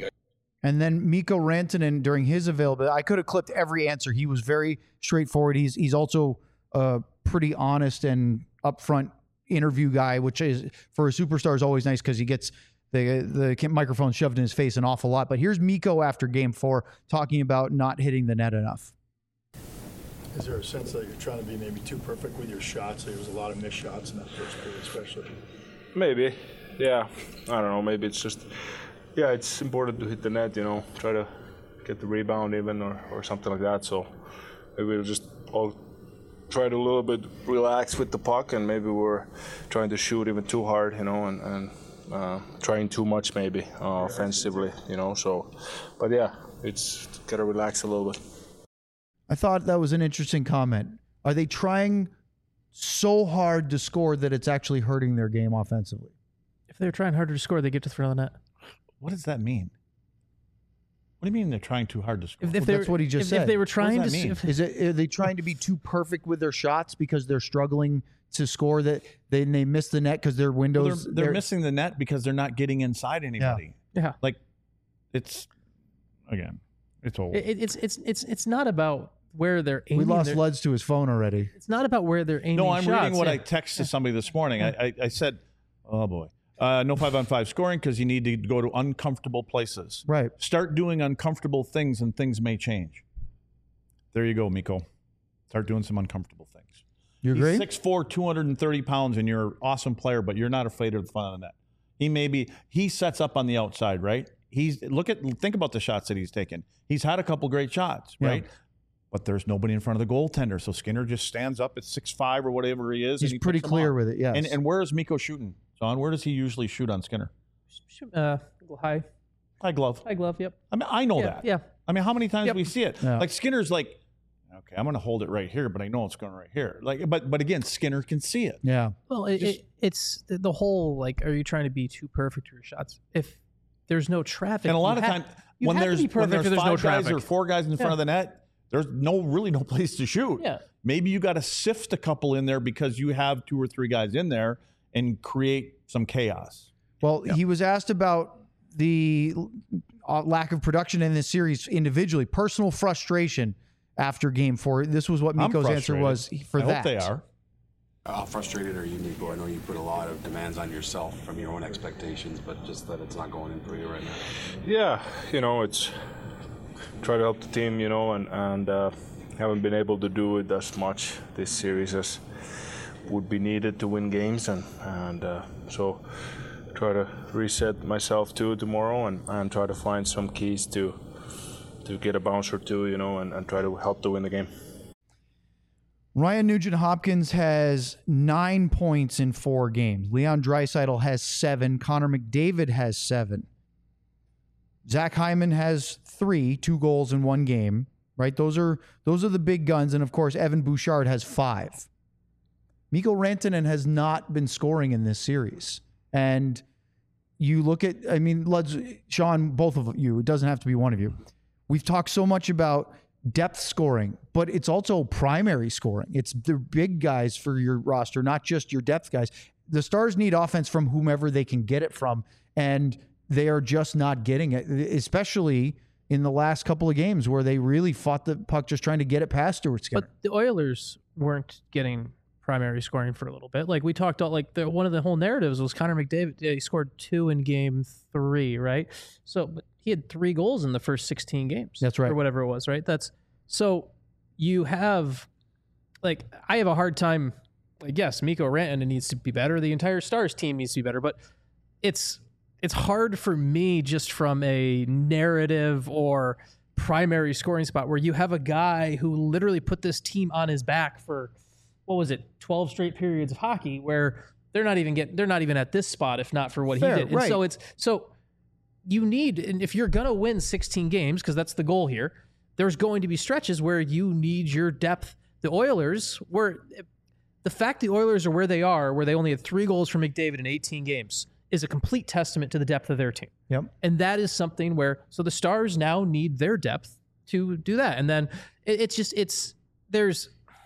And then Mikko Rantanen during his availability, I could have clipped every answer. He was very straightforward. He's he's also uh, pretty honest and upfront interview guy, which is for a superstar is always nice because he gets the the microphone shoved in his face an awful lot. But here's Mikko after game four talking about not hitting the net enough. Is there a sense that you're trying to be maybe too perfect with your shots? There was a lot of missed shots in that first period, especially. Maybe, yeah. I don't know. Maybe it's just, yeah, it's important to hit the net, you know, try to get the rebound even or, or something like that. So maybe we'll just all try to a little bit relax with the puck, and maybe we're trying to shoot even too hard, you know, and, and uh, trying too much maybe uh, offensively, you know. So, but yeah, it's gotta relax a little bit. I thought that was an interesting comment. Are they trying so hard to score that it's actually hurting their game offensively? If they're trying harder to score, they get to throw the net. What does that mean? What do you mean they're trying too hard to score? If, if Well, that's what he just if, said. If they were trying What does to, that mean? if, Is it are they trying to be too perfect with their shots because they're struggling to score, that they they miss the net because their Well, windows they're, they're missing the net because they're not getting inside anybody. yeah, Like, it's again, it's old. it, it's it's it's it's not about where they're aiming. We lost their- Luds to his phone already. It's not about where they're aiming. No, I'm shots. reading what yeah. I texted somebody this morning. I, I, I said, oh boy, uh, no five on five scoring because you need to go to uncomfortable places. Right. Start doing uncomfortable things and things may change. There you go, Miko. Start doing some uncomfortable things. You He's agree? six foot four, two hundred thirty pounds, and you're an awesome player, but you're not afraid of the front of the net. He may be, he sets up on the outside, right? He's, look at, think about the shots that he's taken. He's had a couple great shots, Yeah. right? But there's nobody in front of the goaltender. So Skinner just stands up at six five or whatever he is. He's and he pretty puts them clear on. with it, yes. And, and where is Miko shooting, John? Where does he usually shoot on Skinner? Uh, high, High glove. high glove. Yep. I mean, I know Yeah, that. yeah. I mean, how many times Yep. do we see it? Yeah. Like Skinner's like, okay, I'm going to hold it right here, but I know it's going right here. Like, but but again, Skinner can see it. Yeah. Well, it, Just- it, it's the, the whole like, are you trying to be too perfect with your shots? If there's no traffic, And a lot you of have- time, you when have to there's be when perfect there's if five no guys traffic. or four guys in front Yeah. of the net, there's no really no place to shoot. Yeah. Maybe you got to sift a couple in there because you have two or three guys in there and create some chaos. Well, he was asked about the uh, lack of production in this series individually, personal frustration after game four. This was what I'm Miko's answer frustrated. was for I that. hope they are. How frustrated are you, Miko? I know you put a lot of demands on yourself from your own expectations, but just that it's not going in for you right now. Yeah, you know, it's try to help the team, you know, and, and uh, haven't been able to do it as much this series as would be needed to win games. And, and uh, so try to reset myself too tomorrow and, and try to find some keys to to get a bounce or two, you know, and, and try to help to win the game. Ryan Nugent-Hopkins has nine points in four games. Leon Draisaitl has seven. Connor McDavid has seven. Zach Hyman has three, two goals in one game. Right? Those are those are the big guns. And of course, Evan Bouchard has five. Mikko Rantanen has not been scoring in this series. And you look at, I mean, let's, Sean, both of you, it doesn't have to be one of you. We've talked so much about depth scoring, but it's also primary scoring. It's the big guys for your roster, not just your depth guys. The Stars need offense from whomever they can get it from, and they are just not getting it, especially in the last couple of games where they really fought the puck just trying to get it past Stuart Skinner. But the Oilers weren't getting primary scoring for a little bit. Like we talked about, like the one of the whole narratives was Connor McDavid. Yeah, he scored two in game three, right? So, but he had three goals in the first sixteen games. That's right. Or whatever it was, right? That's so you have, like, I have a hard time. Like, yes, Mikko Rantanen needs to be better. The entire Stars team needs to be better, but it's it's hard for me just from a narrative or primary scoring spot where you have a guy who literally put this team on his back for, what was it, twelve straight periods of hockey where they're not even getting, they're not even at this spot if not for what Fair, he did. And right. so it's, so you need, and if you're going to win sixteen games, because that's the goal here, there's going to be stretches where you need your depth. The Oilers were, the fact the Oilers are where they are, where they only had three goals from McDavid in eighteen games, is a complete testament to the depth of their team. Yep. And that is something where, so the Stars now need their depth to do that. And then it, it's just, it's, there's,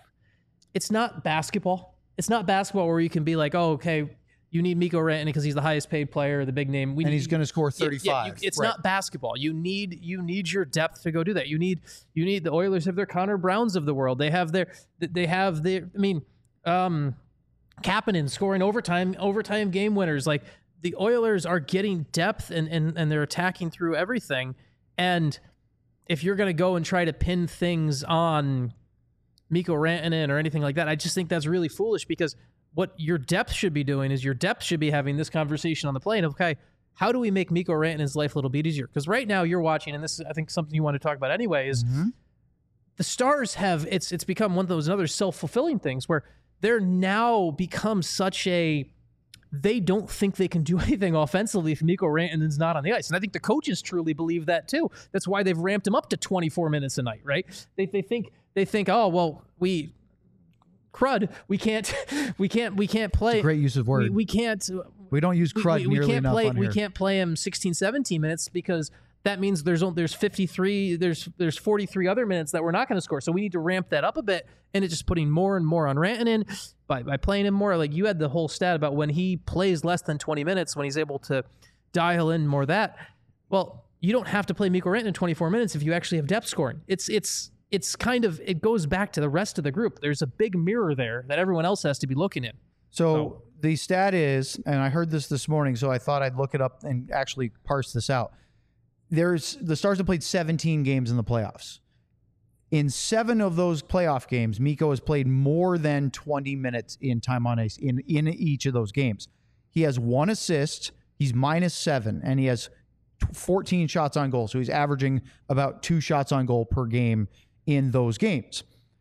it's not basketball. It's not basketball where you can be like, oh, okay, you need Mikko Rantanen because he's the highest paid player, the big name. We and need, he's going to score Yeah, yeah, thirty-five. you- it's Right. not basketball. You need you need your depth to go do that. You need you need the Oilers have their Connor Browns of the world. They have their they have their I mean, um, Kapanen scoring overtime overtime game winners. Like the Oilers are getting depth and and and they're attacking through everything. And if you're going to go and try to pin things on Mikko Rantanen or anything like that. I just think that's really foolish because what your depth should be doing is your depth should be having this conversation on the plane of, okay, how do we make Mikko Rantanen's life a little bit easier? Because right now you're watching, and this is, I think, something you want to talk about anyway, is mm-hmm. the Stars have, it's it's become one of those another self-fulfilling things where they're now become such a, they don't think they can do anything offensively if Mikko Rantanen's not on the ice. And I think the coaches truly believe that too. That's why they've ramped him up to twenty-four minutes a night, right? They they think, they think, oh, well, we... crud, we can't, we can't, we can't play. It's a great use of word. We, we can't. We don't use crud we, we, nearly we can't enough play, on We here. can't play him sixteen, seventeen minutes because that means there's only, there's fifty-three, there's there's forty-three other minutes that we're not going to score. So we need to ramp that up a bit, and it's just putting more and more on Rantanen by by playing him more. Like you had the whole stat about when he plays less than twenty minutes, when he's able to dial in more of that. Well, you don't have to play Mikko Rantanen twenty-four minutes if you actually have depth scoring. It's it's. It's kind of, it goes back to the rest of the group. There's a big mirror there that everyone else has to be looking in. So, so the stat is, and I heard this this morning, so I thought I'd look it up and actually parse this out. There's the Stars have played seventeen games in the playoffs. In seven of those playoff games, Mikko has played more than twenty minutes in time on ice in, in each of those games. He has one assist, he's minus seven, and he has fourteen shots on goal. So he's averaging about two shots on goal per game in those games.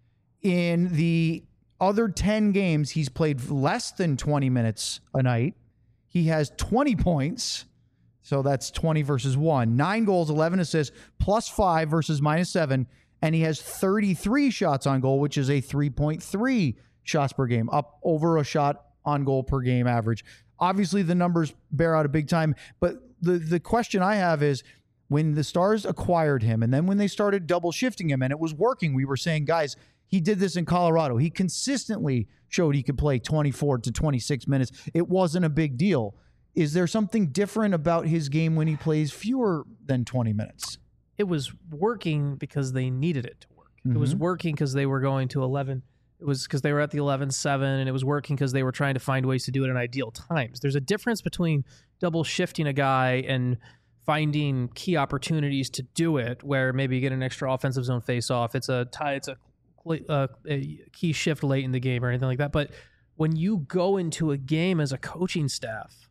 In the other ten games, he's played less than twenty minutes a night. He has twenty points. So that's twenty versus one. Nine goals, eleven assists, plus five versus minus seven. And he has thirty-three shots on goal, which is a three point three shots per game, up over a shot on goal per game average. Obviously, the numbers bear out a big time. But the, the question I have is, when the Stars acquired him and then when they started double shifting him and it was working, we were saying, guys, he did this in Colorado. He consistently showed he could play twenty-four to twenty-six minutes. It wasn't a big deal. Is there something different about his game when he plays fewer than twenty minutes? It was working because they needed it to work. Mm-hmm. It was working because they were going to eleven. It was because they were at the eleven seven, and it was working because they were trying to find ways to do it in ideal times. There's a difference between double shifting a guy and finding key opportunities to do it, where maybe you get an extra offensive zone face-off. It's a tie. It's a, a, a key shift late in the game or anything like that. But when you go into a game as a coaching staff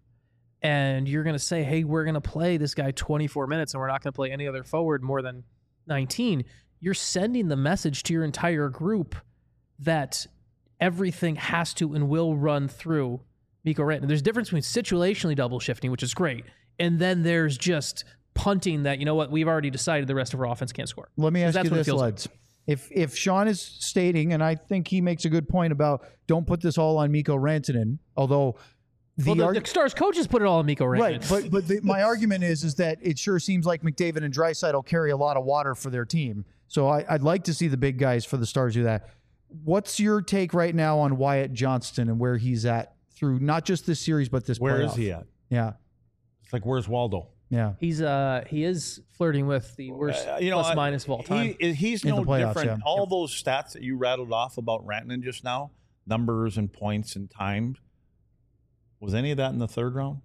and you're going to say, hey, we're going to play this guy twenty-four minutes and we're not going to play any other forward more than nineteen, you're sending the message to your entire group that everything has to and will run through Mikko Rantanen. There's a difference between situationally double shifting, which is great, and then there's just punting that, you know what, we've already decided the rest of our offense can't score. Let me ask you this, Leds. like. If if Sean is stating, and I think he makes a good point about don't put this all on Mikko Rantanen, although the, well, the, arg- the Stars coaches put it all on Mikko Rantanen. Right, but but the, my argument is is that it sure seems like McDavid and Draisaitl carry a lot of water for their team. So I, I'd like to see the big guys for the Stars do that. What's your take right now on Wyatt Johnston and where he's at through not just this series but this Where playoff? is he at? Yeah. It's like, where's Waldo? Yeah. He's uh he is flirting with the worst Uh, you know, plus I- minus of all time. He, he's In the no playoffs, different. yeah. All those stats that you rattled off about Rantanen just now, numbers and points and times, was any of that in the third round?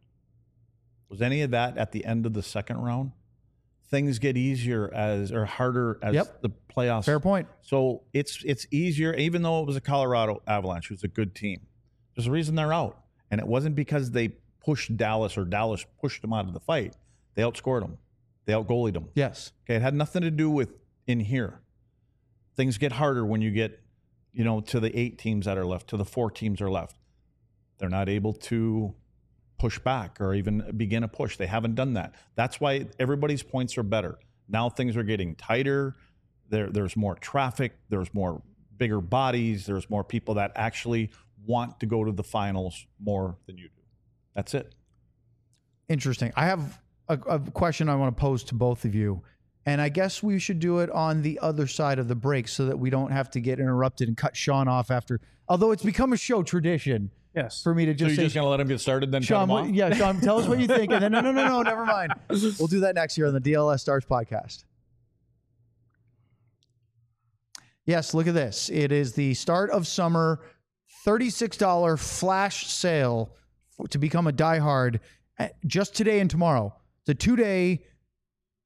Was any of that at the end of the second round? Things get easier as or harder as Yep. the playoffs. Fair point. So it's it's easier, even though it was a Colorado Avalanche, who's a good team. There's a reason they're out, and it wasn't because they pushed Dallas or Dallas pushed them out of the fight. They outscored them. They outgoalied them. Yes. Okay, it had nothing to do with in here. Things get harder when you get, you know, to the eight teams that are left, to the four teams are left. They're not able to push back or even begin a push. They haven't done that. That's why everybody's points are better. Now things are getting tighter. There, there's more traffic. There's more bigger bodies. There's more people that actually want to go to the finals more than you do. That's it. Interesting. I have a, a question I want to pose to both of you, and I guess we should do it on the other side of the break so that we don't have to get interrupted and cut Sean off after. Although it's become a show tradition. Yes. For me to So just you're say, just going to let him get started, then Sean, cut him what, off? yeah, Sean, tell us what you think, and then no, no, no, no, never mind. We'll do that next year on the D L S Stars podcast. Yes, look at this. It is the start of summer thirty-six dollars flash sale for, to become a diehard uh, just today and tomorrow. It's a two-day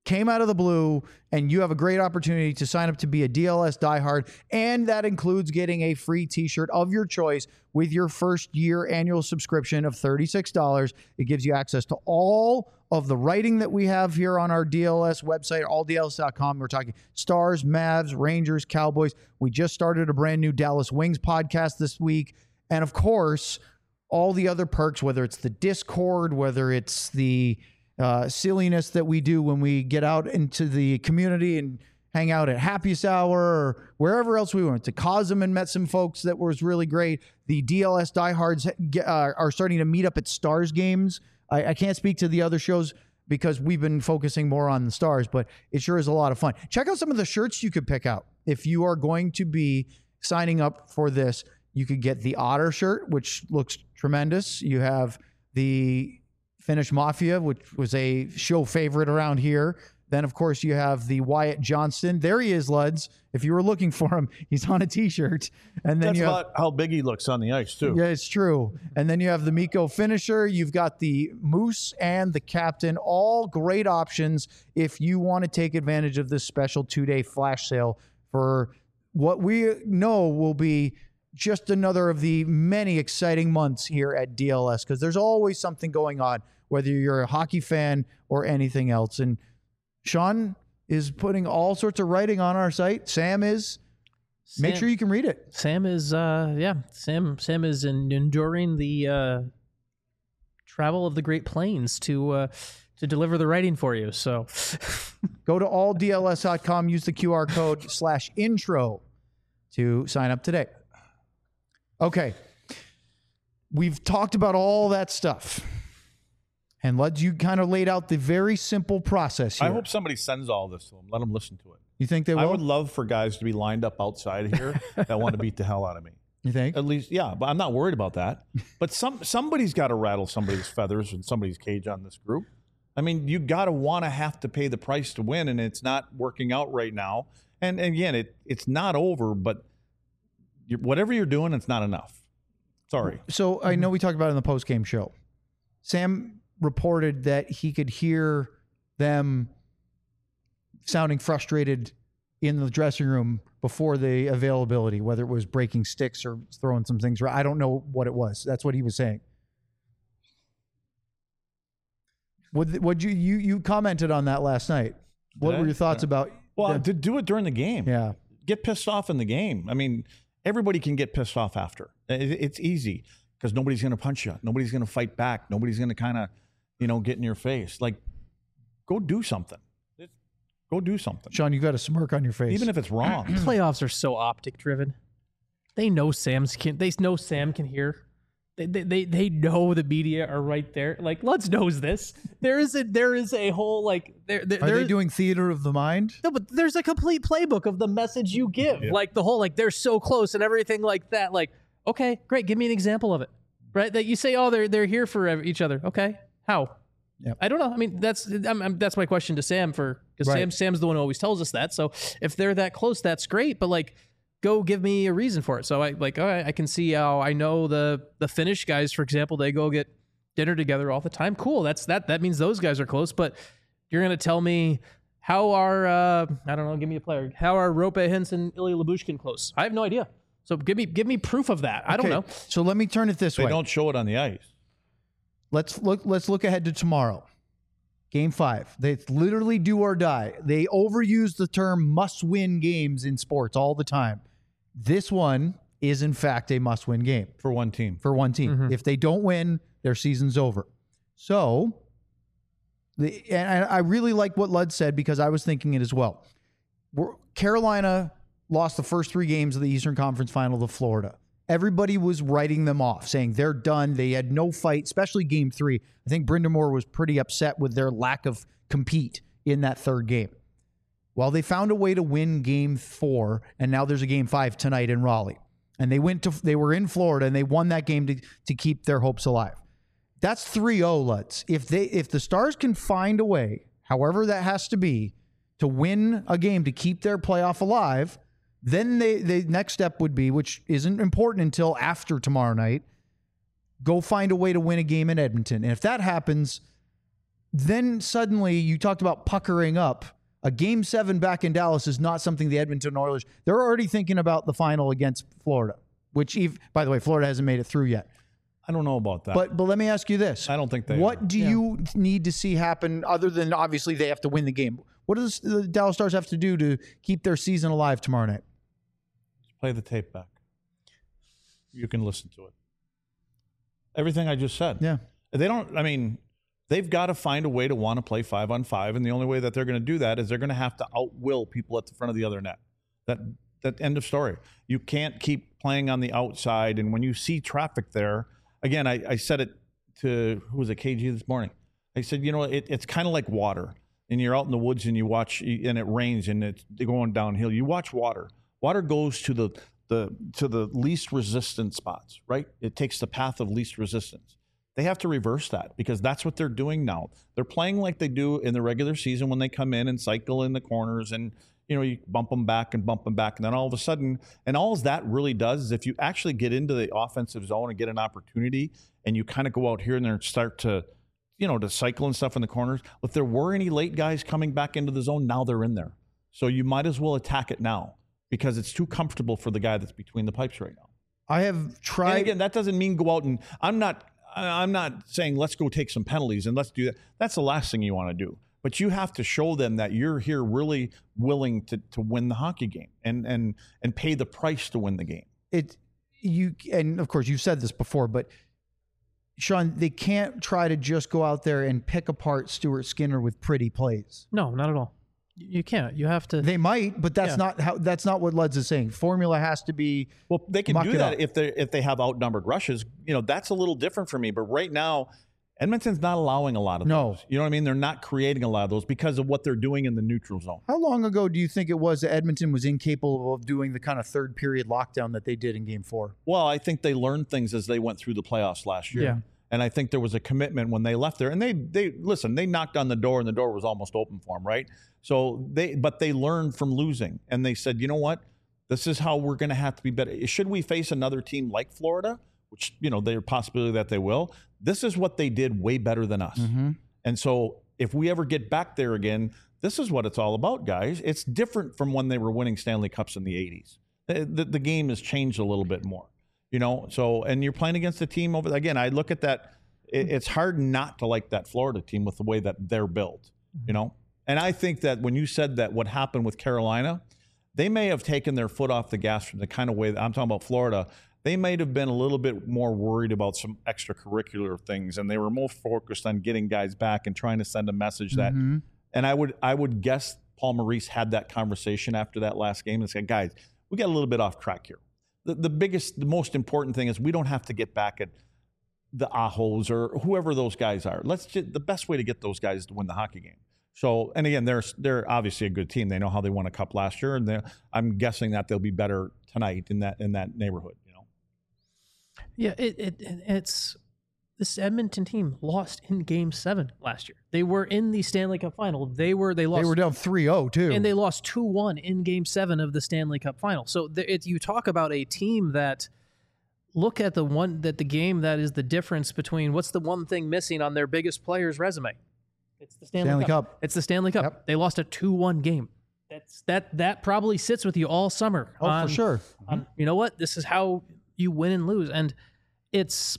came out of the blue, and you have a great opportunity to sign up to be a D L S diehard, and that includes getting a free t-shirt of your choice with your first year annual subscription of thirty-six dollars. It gives you access to all of the writing that we have here on our D L S website, all D L S dot com. We're talking Stars, Mavs, Rangers, Cowboys. We just started a brand new Dallas Wings podcast this week. And of course, all the other perks, whether it's the Discord, whether it's the uh, silliness that we do when we get out into the community and hang out at Happiest Hour or wherever else we went. To Cosm and met some folks that was really great. The D L S diehards uh, are starting to meet up at Stars games. I, I can't speak to the other shows because we've been focusing more on the Stars, but it sure is a lot of fun. Check out some of the shirts you could pick out. If you are going to be signing up for this, you could get the Otter shirt, which looks tremendous. You have the Finnish Mafia, which was a show favorite around here. Then, of course, you have the Wyatt Johnston. There he is, Luds. If you were looking for him, he's on a T-shirt. And then That's you have, about how big he looks on the ice, too. yeah, it's true. And then you have the Mikko finisher. You've got the Moose and the Captain. All great options if you want to take advantage of this special two-day flash sale for what we know will be just another of the many exciting months here at D L S, because there's always something going on, whether you're a hockey fan or anything else. And Sean is putting all sorts of writing on our site. Sam is. Sam, Make sure you can read it. Sam is, uh, yeah, Sam Sam is in, enduring the uh, travel of the Great Plains to uh, to deliver the writing for you. So go to all D L S dot com, use the Q R code slash intro to sign up today. Okay. We've talked about all that stuff. And Luds, you kind of laid out the very simple process here. I hope somebody sends all this to them. Let them listen to it. You think they will? I would love for guys to be lined up outside here that want to beat the hell out of me. You think? At least, yeah, but I'm not worried about that. But some somebody's got to rattle somebody's feathers and somebody's cage on this group. I mean, you got to want to have to pay the price to win, and it's not working out right now. And, and again, it it's not over, but you're, whatever you're doing, it's not enough. Sorry. So I know we talked about it in the post-game show. Sam reported that he could hear them sounding frustrated in the dressing room before the availability, whether it was breaking sticks or throwing some things. I don't know what it was. That's what he was saying. Would would you you you commented on that last night? What Did were I? your thoughts Yeah. about? Well, the- to do it during the game. Yeah. Get pissed off in the game. I mean, everybody can get pissed off after. It, it's easy because nobody's going to punch you. Nobody's going to fight back. Nobody's going to kind of, you know, get in your face. Like, go do something. Go do something. Sean, you got a smirk on your face. Even if it's wrong. Playoffs are so optic driven. They know Sam's can. They know Sam can hear. They, they they they know the media are right there. Like, Lutz knows this. There is a there is a whole like there. there Are there- they doing theater of the mind? No, but there's a complete playbook of the message you give. Yeah. Like the whole like they're so close and everything like that. Like, okay, great. Give me an example of it. Right? That you say, oh, they're they're here for ev- each other. Okay, how? Yep. I don't know. I mean, that's I'm, I'm, that's my question to Sam for because Right. Sam Sam's the one who always tells us that. So if they're that close, that's great. But like, go give me a reason for it. So I like, all right, I can see how I know the the Finnish guys, for example, they go get dinner together all the time. Cool. That's that. That means those guys are close. But you're gonna tell me how are uh, I don't know. Give me a player. How are Rope Hintz and Ilya Lyubushkin close? I have no idea. So give me give me proof of that. I don't Okay, know. So let me turn it this They way. don't show it on the ice. Let's look. Let's look ahead to tomorrow, Game Five. They literally do or die. They overuse the term "must-win" games in sports all the time. This one is, in fact, a must-win game for one team. For one team, Mm-hmm. if they don't win, their season's over. So, the and I really like what Lud said because I was thinking it as well. We're, Carolina lost the first three games of the Eastern Conference Final to Florida. Everybody was writing them off, saying they're done. They had no fight, especially game three. I think Brind'Amour was pretty upset with their lack of compete in that third game. Well, they found a way to win game four, and now there's a game five tonight in Raleigh. And they went to they were in Florida, and they won that game to, to keep their hopes alive. That's three oh, Lutz. If they if the Stars can find a way, however that has to be, to win a game to keep their playoff alive, then they, the next step would be, which isn't important until after tomorrow night, go find a way to win a game in Edmonton. And if that happens, then suddenly you talked about puckering up. A game seven back in Dallas is not something the Edmonton Oilers, they're already thinking about the final against Florida, which, Eve, by the way, Florida hasn't made it through yet. I don't know about that. But but let me ask you this. I don't think they What are. do Yeah. you need to see happen other than obviously they have to win the game? What does the Dallas Stars have to do to keep their season alive tomorrow night? Play the tape back. You can listen to it. Everything I just said. Yeah. They don't, I mean, they've got to find a way to want to play five on five. And the only way that they're going to do that is they're going to have to outwill people at the front of the other net. That, that end of story. You can't keep playing on the outside. And when you see traffic there, again, I, I said it to, who was it, K G this morning? I said, you know, it, it's kind of like water. And you're out in the woods and you watch, and it rains and it's going downhill. You watch water. Water goes to the, the to the least resistant spots, right? It takes the path of least resistance. They have to reverse that because that's what they're doing now. They're playing like they do in the regular season when they come in and cycle in the corners and, you know, you bump them back and bump them back. And then all of a sudden, and all that really does is if you actually get into the offensive zone and get an opportunity and you kind of go out here and there and start to, you know, to cycle and stuff in the corners. If there were any late guys coming back into the zone, now they're in there. So you might as well attack it now because it's too comfortable for the guy that's between the pipes right now. I have tried. And again, that doesn't mean go out and I'm not, I'm not saying let's go take some penalties and let's do that. That's the last thing you want to do. But you have to show them that you're here really willing to to win the hockey game and and and pay the price to win the game. It you and of course you've said this before, but Sean, they can't try to just go out there and pick apart Stuart Skinner with pretty plays. No, not at all. You can't. You have to. They might, but that's Yeah. not how. That's not what Luds is saying. Formula has to be. Well, they can muck do it that up. if they if they have outnumbered rushes. You know, that's a little different for me. But right now, Edmonton's not allowing a lot of No. those. You know what I mean? They're not creating a lot of those because of what they're doing in the neutral zone. How long ago do you think it was that Edmonton was incapable of doing the kind of third period lockdown that they did in Game Four? Well, I think they learned things as they went through the playoffs last year. Yeah. And I think there was a commitment when they left there. And they, they listen, they knocked on the door and the door was almost open for them, right? So they, but they learned from losing. And they said, you know what? This is how we're going to have to be better. Should we face another team like Florida, which, you know, there's a possibility that they will, this is what they did way better than us. Mm-hmm. And so if we ever get back there again, this is what it's all about, guys. It's different from when they were winning Stanley Cups in the eighties. The, the, the game has changed a little bit more. You know, so, and you're playing against a team over, again, I look at that, it, it's hard not to like that Florida team with the way that they're built, you know? And I think that when you said that what happened with Carolina, they may have taken their foot off the gas from the kind of way that I'm talking about Florida. They might have been a little bit more worried about some extracurricular things, and they were more focused on getting guys back and trying to send a message that, Mhm. and I would, I would guess Paul Maurice had that conversation after that last game and said, guys, we got a little bit off track here. The, the biggest, the most important thing is we don't have to get back at the Ahos or whoever those guys are. Let's just, the best way to get those guys is to win the hockey game. So, and again, they're they're obviously a good team. They know how they won a cup last year, and I'm guessing that they'll be better tonight in that in that neighborhood. You know. Yeah, it, it it's this Edmonton team lost in Game Seven last year. They were in the Stanley Cup Final. They were they lost. They were down three oh too, and they lost two one in Game Seven of the Stanley Cup Final. So the, it, you talk about a team that look at the one that the game that is the difference between what's the one thing missing on their biggest player's resume. It's the Stanley, Stanley Cup. Cup. It's the Stanley Cup. Yep. They lost a two one game. That's that that probably sits with you all summer. Oh, on- for sure. on, you know what? This is how you win and lose. And it's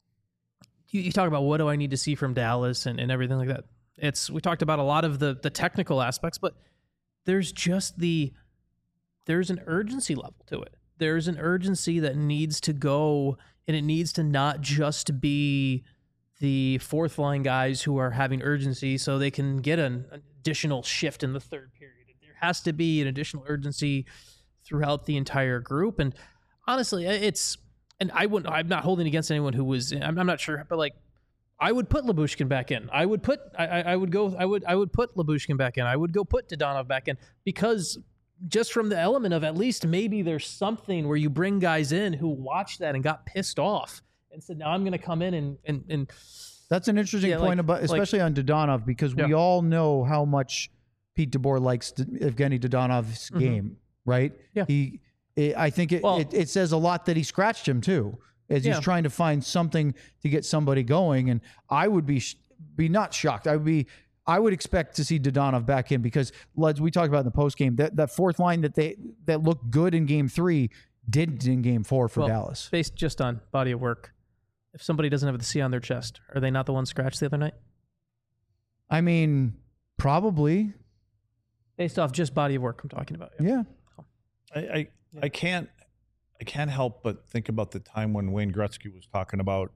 you, you talk about what do I need to see from Dallas and, and everything like that. It's we talked about a lot of the the technical aspects, but there's just the there's an urgency level to it. There's an urgency that needs to go, and it needs to not just be the fourth line guys who are having urgency so they can get an additional shift in the third period. There has to be an additional urgency throughout the entire group. And honestly, it's, and I wouldn't, I'm not holding against anyone who was, I'm, I'm not sure, but like, I would put Lyubushkin back in. I would put, I, I I would go, I would, I would put Lyubushkin back in. I would go put Dadonov back in because just from the element of at least maybe there's something where you bring guys in who watched that and got pissed off and said, now I'm going to come in and, and, and That's an interesting Yeah, point, like- about, especially on Dadonov, because we Yeah. all know how much Pete DeBoer likes D- Evgeny Dadonov's Mhm. game, right? Yeah. He, it, I think it, Well- it, it says a lot that he scratched him too, as Yeah. he's trying to find something to get somebody going. And I would be, sh- be not shocked. I would be. I would expect to see Dadonov back in because, as we talked about in the post game, that, that fourth line that they that looked good in game three didn't in game four for well, Dallas. Based just on body of work, if somebody doesn't have the C on their chest, are they not the one scratched the other night? I mean, probably. Based off just body of work, I'm talking about. Yeah. I, I, I can't I can't help but think about the time when Wayne Gretzky was talking about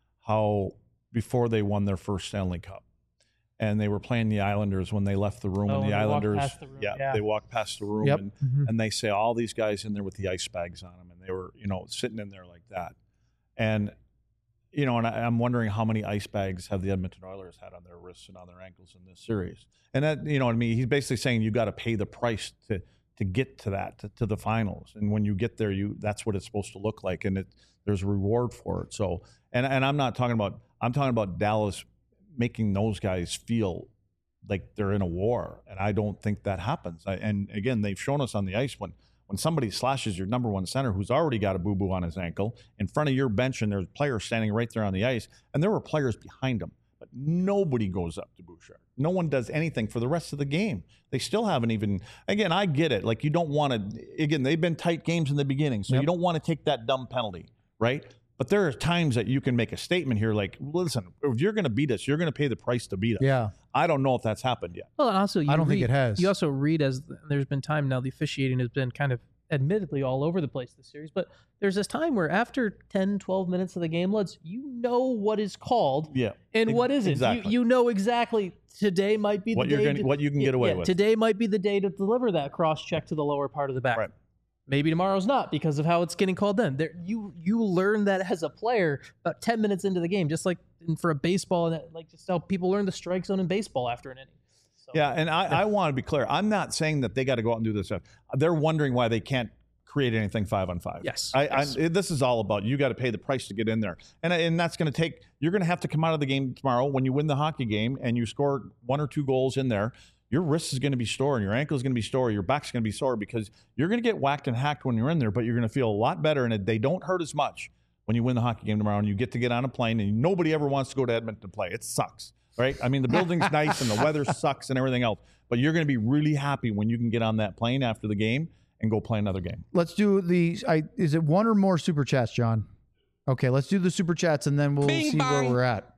how before they won their first Stanley Cup. And they were playing the Islanders when they left the room, Oh, and the when they walked Islanders, past the room, yeah, yeah. they walked past the room, Yep. and, Mhm. and they say all these guys in there with the ice bags on them, and they were, you know, sitting in there like that, and you know, and I, I'm wondering how many ice bags have the Edmonton Oilers had on their wrists and on their ankles in this series, and that, you know what I mean? He's basically saying you got to pay the price to to get to that to, to the finals, and when you get there, you that's what it's supposed to look like, and it there's a reward for it. So, and and I'm not talking about I'm talking about Dallas making those guys feel like they're in a war, and I don't think that happens. I, and again, they've shown us on the ice when when somebody slashes your number one center who's already got a boo-boo on his ankle in front of your bench, and there's players standing right there on the ice, and there were players behind him, but nobody goes up to Bouchard. No one does anything for the rest of the game. They still haven't even. Again, I get it. Like you don't want to. Again, they've been tight games in the beginning, so Yep. you don't want to take that dumb penalty, right? But there are times that you can make a statement here like, listen, if you're going to beat us, you're going to pay the price to beat us. Yeah. I don't know if that's happened yet. Well, and also, you I don't think read- it has. You also read as there's been time now. The officiating has been kind of admittedly all over the place this series, but there's this time where after ten, twelve minutes of the game, Luds, you know what is called, Yeah. and what isn't. Exactly. You you know exactly today might be What the you're day gonna- to- what you can yeah, get away yeah, with. Today might be the day to deliver that cross check to the lower part of the back. Right. Maybe tomorrow's not because of how it's getting called then. There, you you learn that as a player about ten minutes into the game, just like in, for a baseball, and that, like just how people learn the strike zone in baseball after an inning. So, Yeah, and I, I want to be clear. I'm not saying that they got to go out and do this stuff. They're wondering why they can't create anything five on five. Yes, I, yes. I, this is all about you got to pay the price to get in there, and and that's going to take. You're going to have to come out of the game tomorrow when you win the hockey game and you score one or two goals in there. Your wrist is going to be sore, and your ankle is going to be sore, your back's going to be sore because you're going to get whacked and hacked when you're in there, but you're going to feel a lot better, and they don't hurt as much when you win the hockey game tomorrow and you get to get on a plane, and nobody ever wants to go to Edmonton to play. It sucks, right? I mean, the building's nice and the weather sucks and everything else, but you're going to be really happy when you can get on that plane after the game and go play another game. Let's do the. I, is it one or more super chats, John? Okay, let's do the super chats and then we'll Bing see bong. where we're at.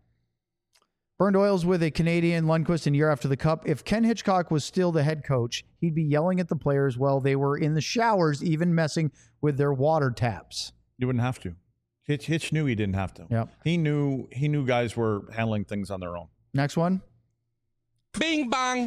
Burned Oils with a Canadian Lundqvist in year after the Cup. If Ken Hitchcock was still the head coach, he'd be yelling at the players while they were in the showers, even messing with their water taps. You wouldn't have to. Hitch, Hitch knew he didn't have to. Yep. He knew he knew guys were handling things on their own. Next one. Bing bong.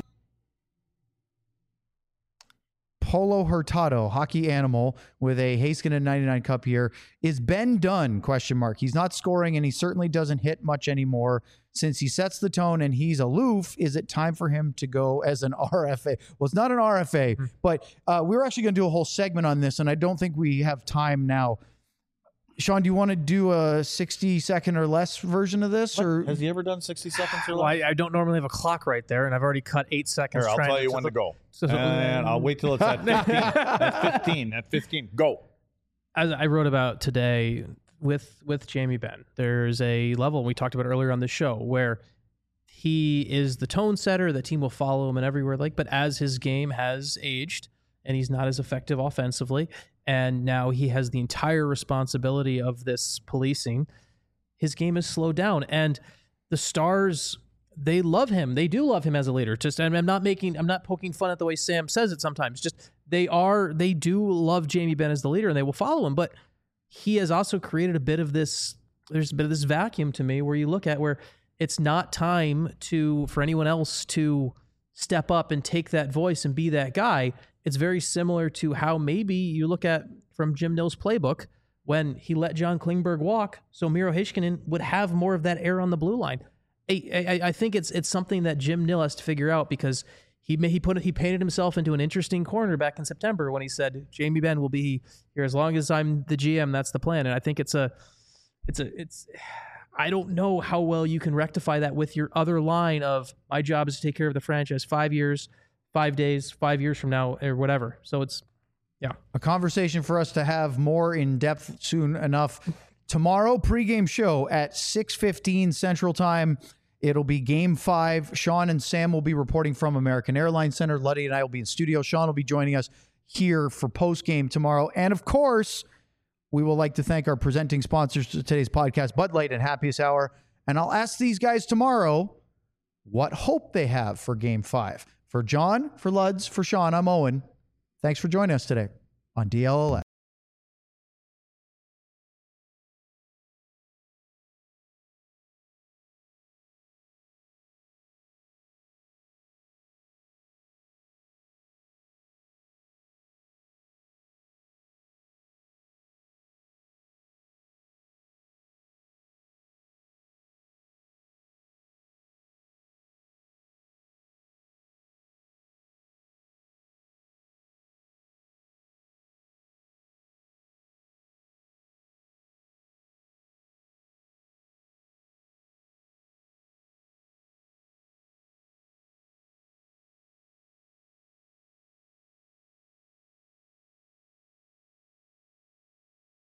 Polo Hurtado, hockey animal, with a Heiskanen ninety-nine Cup here. Is Ben done? Question mark. He's not scoring, and he certainly doesn't hit much anymore. Since he sets the tone and he's aloof, is it time for him to go as an R F A? Well, it's not an R F A, but uh, we were actually going to do a whole segment on this, and I don't think we have time now. Sean, do you want to do a sixty second or less version of this? Or Has he ever done sixty seconds or Well, less? I, I don't normally have a clock right there, and I've already cut eight seconds. Here, I'll trying tell you to when to go. So- And I'll wait till it's at fifteen. At fifteen. At fifteen. Go. As I wrote about today with with Jamie Benn, there's a level we talked about earlier on the show where he is the tone setter. The team will follow him and everywhere. Like, but as his game has aged and he's not as effective offensively, and now he has the entire responsibility of this policing, his game has slowed down. And the Stars, they love him. They do love him as a leader. Just, and I'm not making, I'm not poking fun at the way Sam says it sometimes. Just they are, they do love Jamie Benn as the leader, and they will follow him. But he has also created a bit of this. There's a bit of this vacuum to me where you look at where it's not time to for anyone else to step up and take that voice and be that guy. It's very similar to how maybe you look at from Jim Nill's playbook when he let John Klingberg walk, so Miro Heiskanen would have more of that air on the blue line. I, I, I think it's it's something that Jim Nill has to figure out because he he put he painted himself into an interesting corner back in September when he said Jamie Benn will be here as long as I'm the G M. That's the plan, and I think it's a it's a it's. I don't know how well you can rectify that with your other line of my job is to take care of the franchise five years, five days, five years from now, or whatever. So it's, yeah. a conversation for us to have more in depth soon enough. Tomorrow, pregame show at six fifteen Central Time. It'll be game five. Sean and Sam will be reporting from American Airlines Center. Luddy and I will be in studio. Sean will be joining us here for post-game tomorrow. And of course, we will like to thank our presenting sponsors to today's podcast, Bud Light and Happiest Hour. And I'll ask these guys tomorrow what hope they have for game five. For John, for Luds, for Sean, I'm Owen. Thanks for joining us today on D L L S.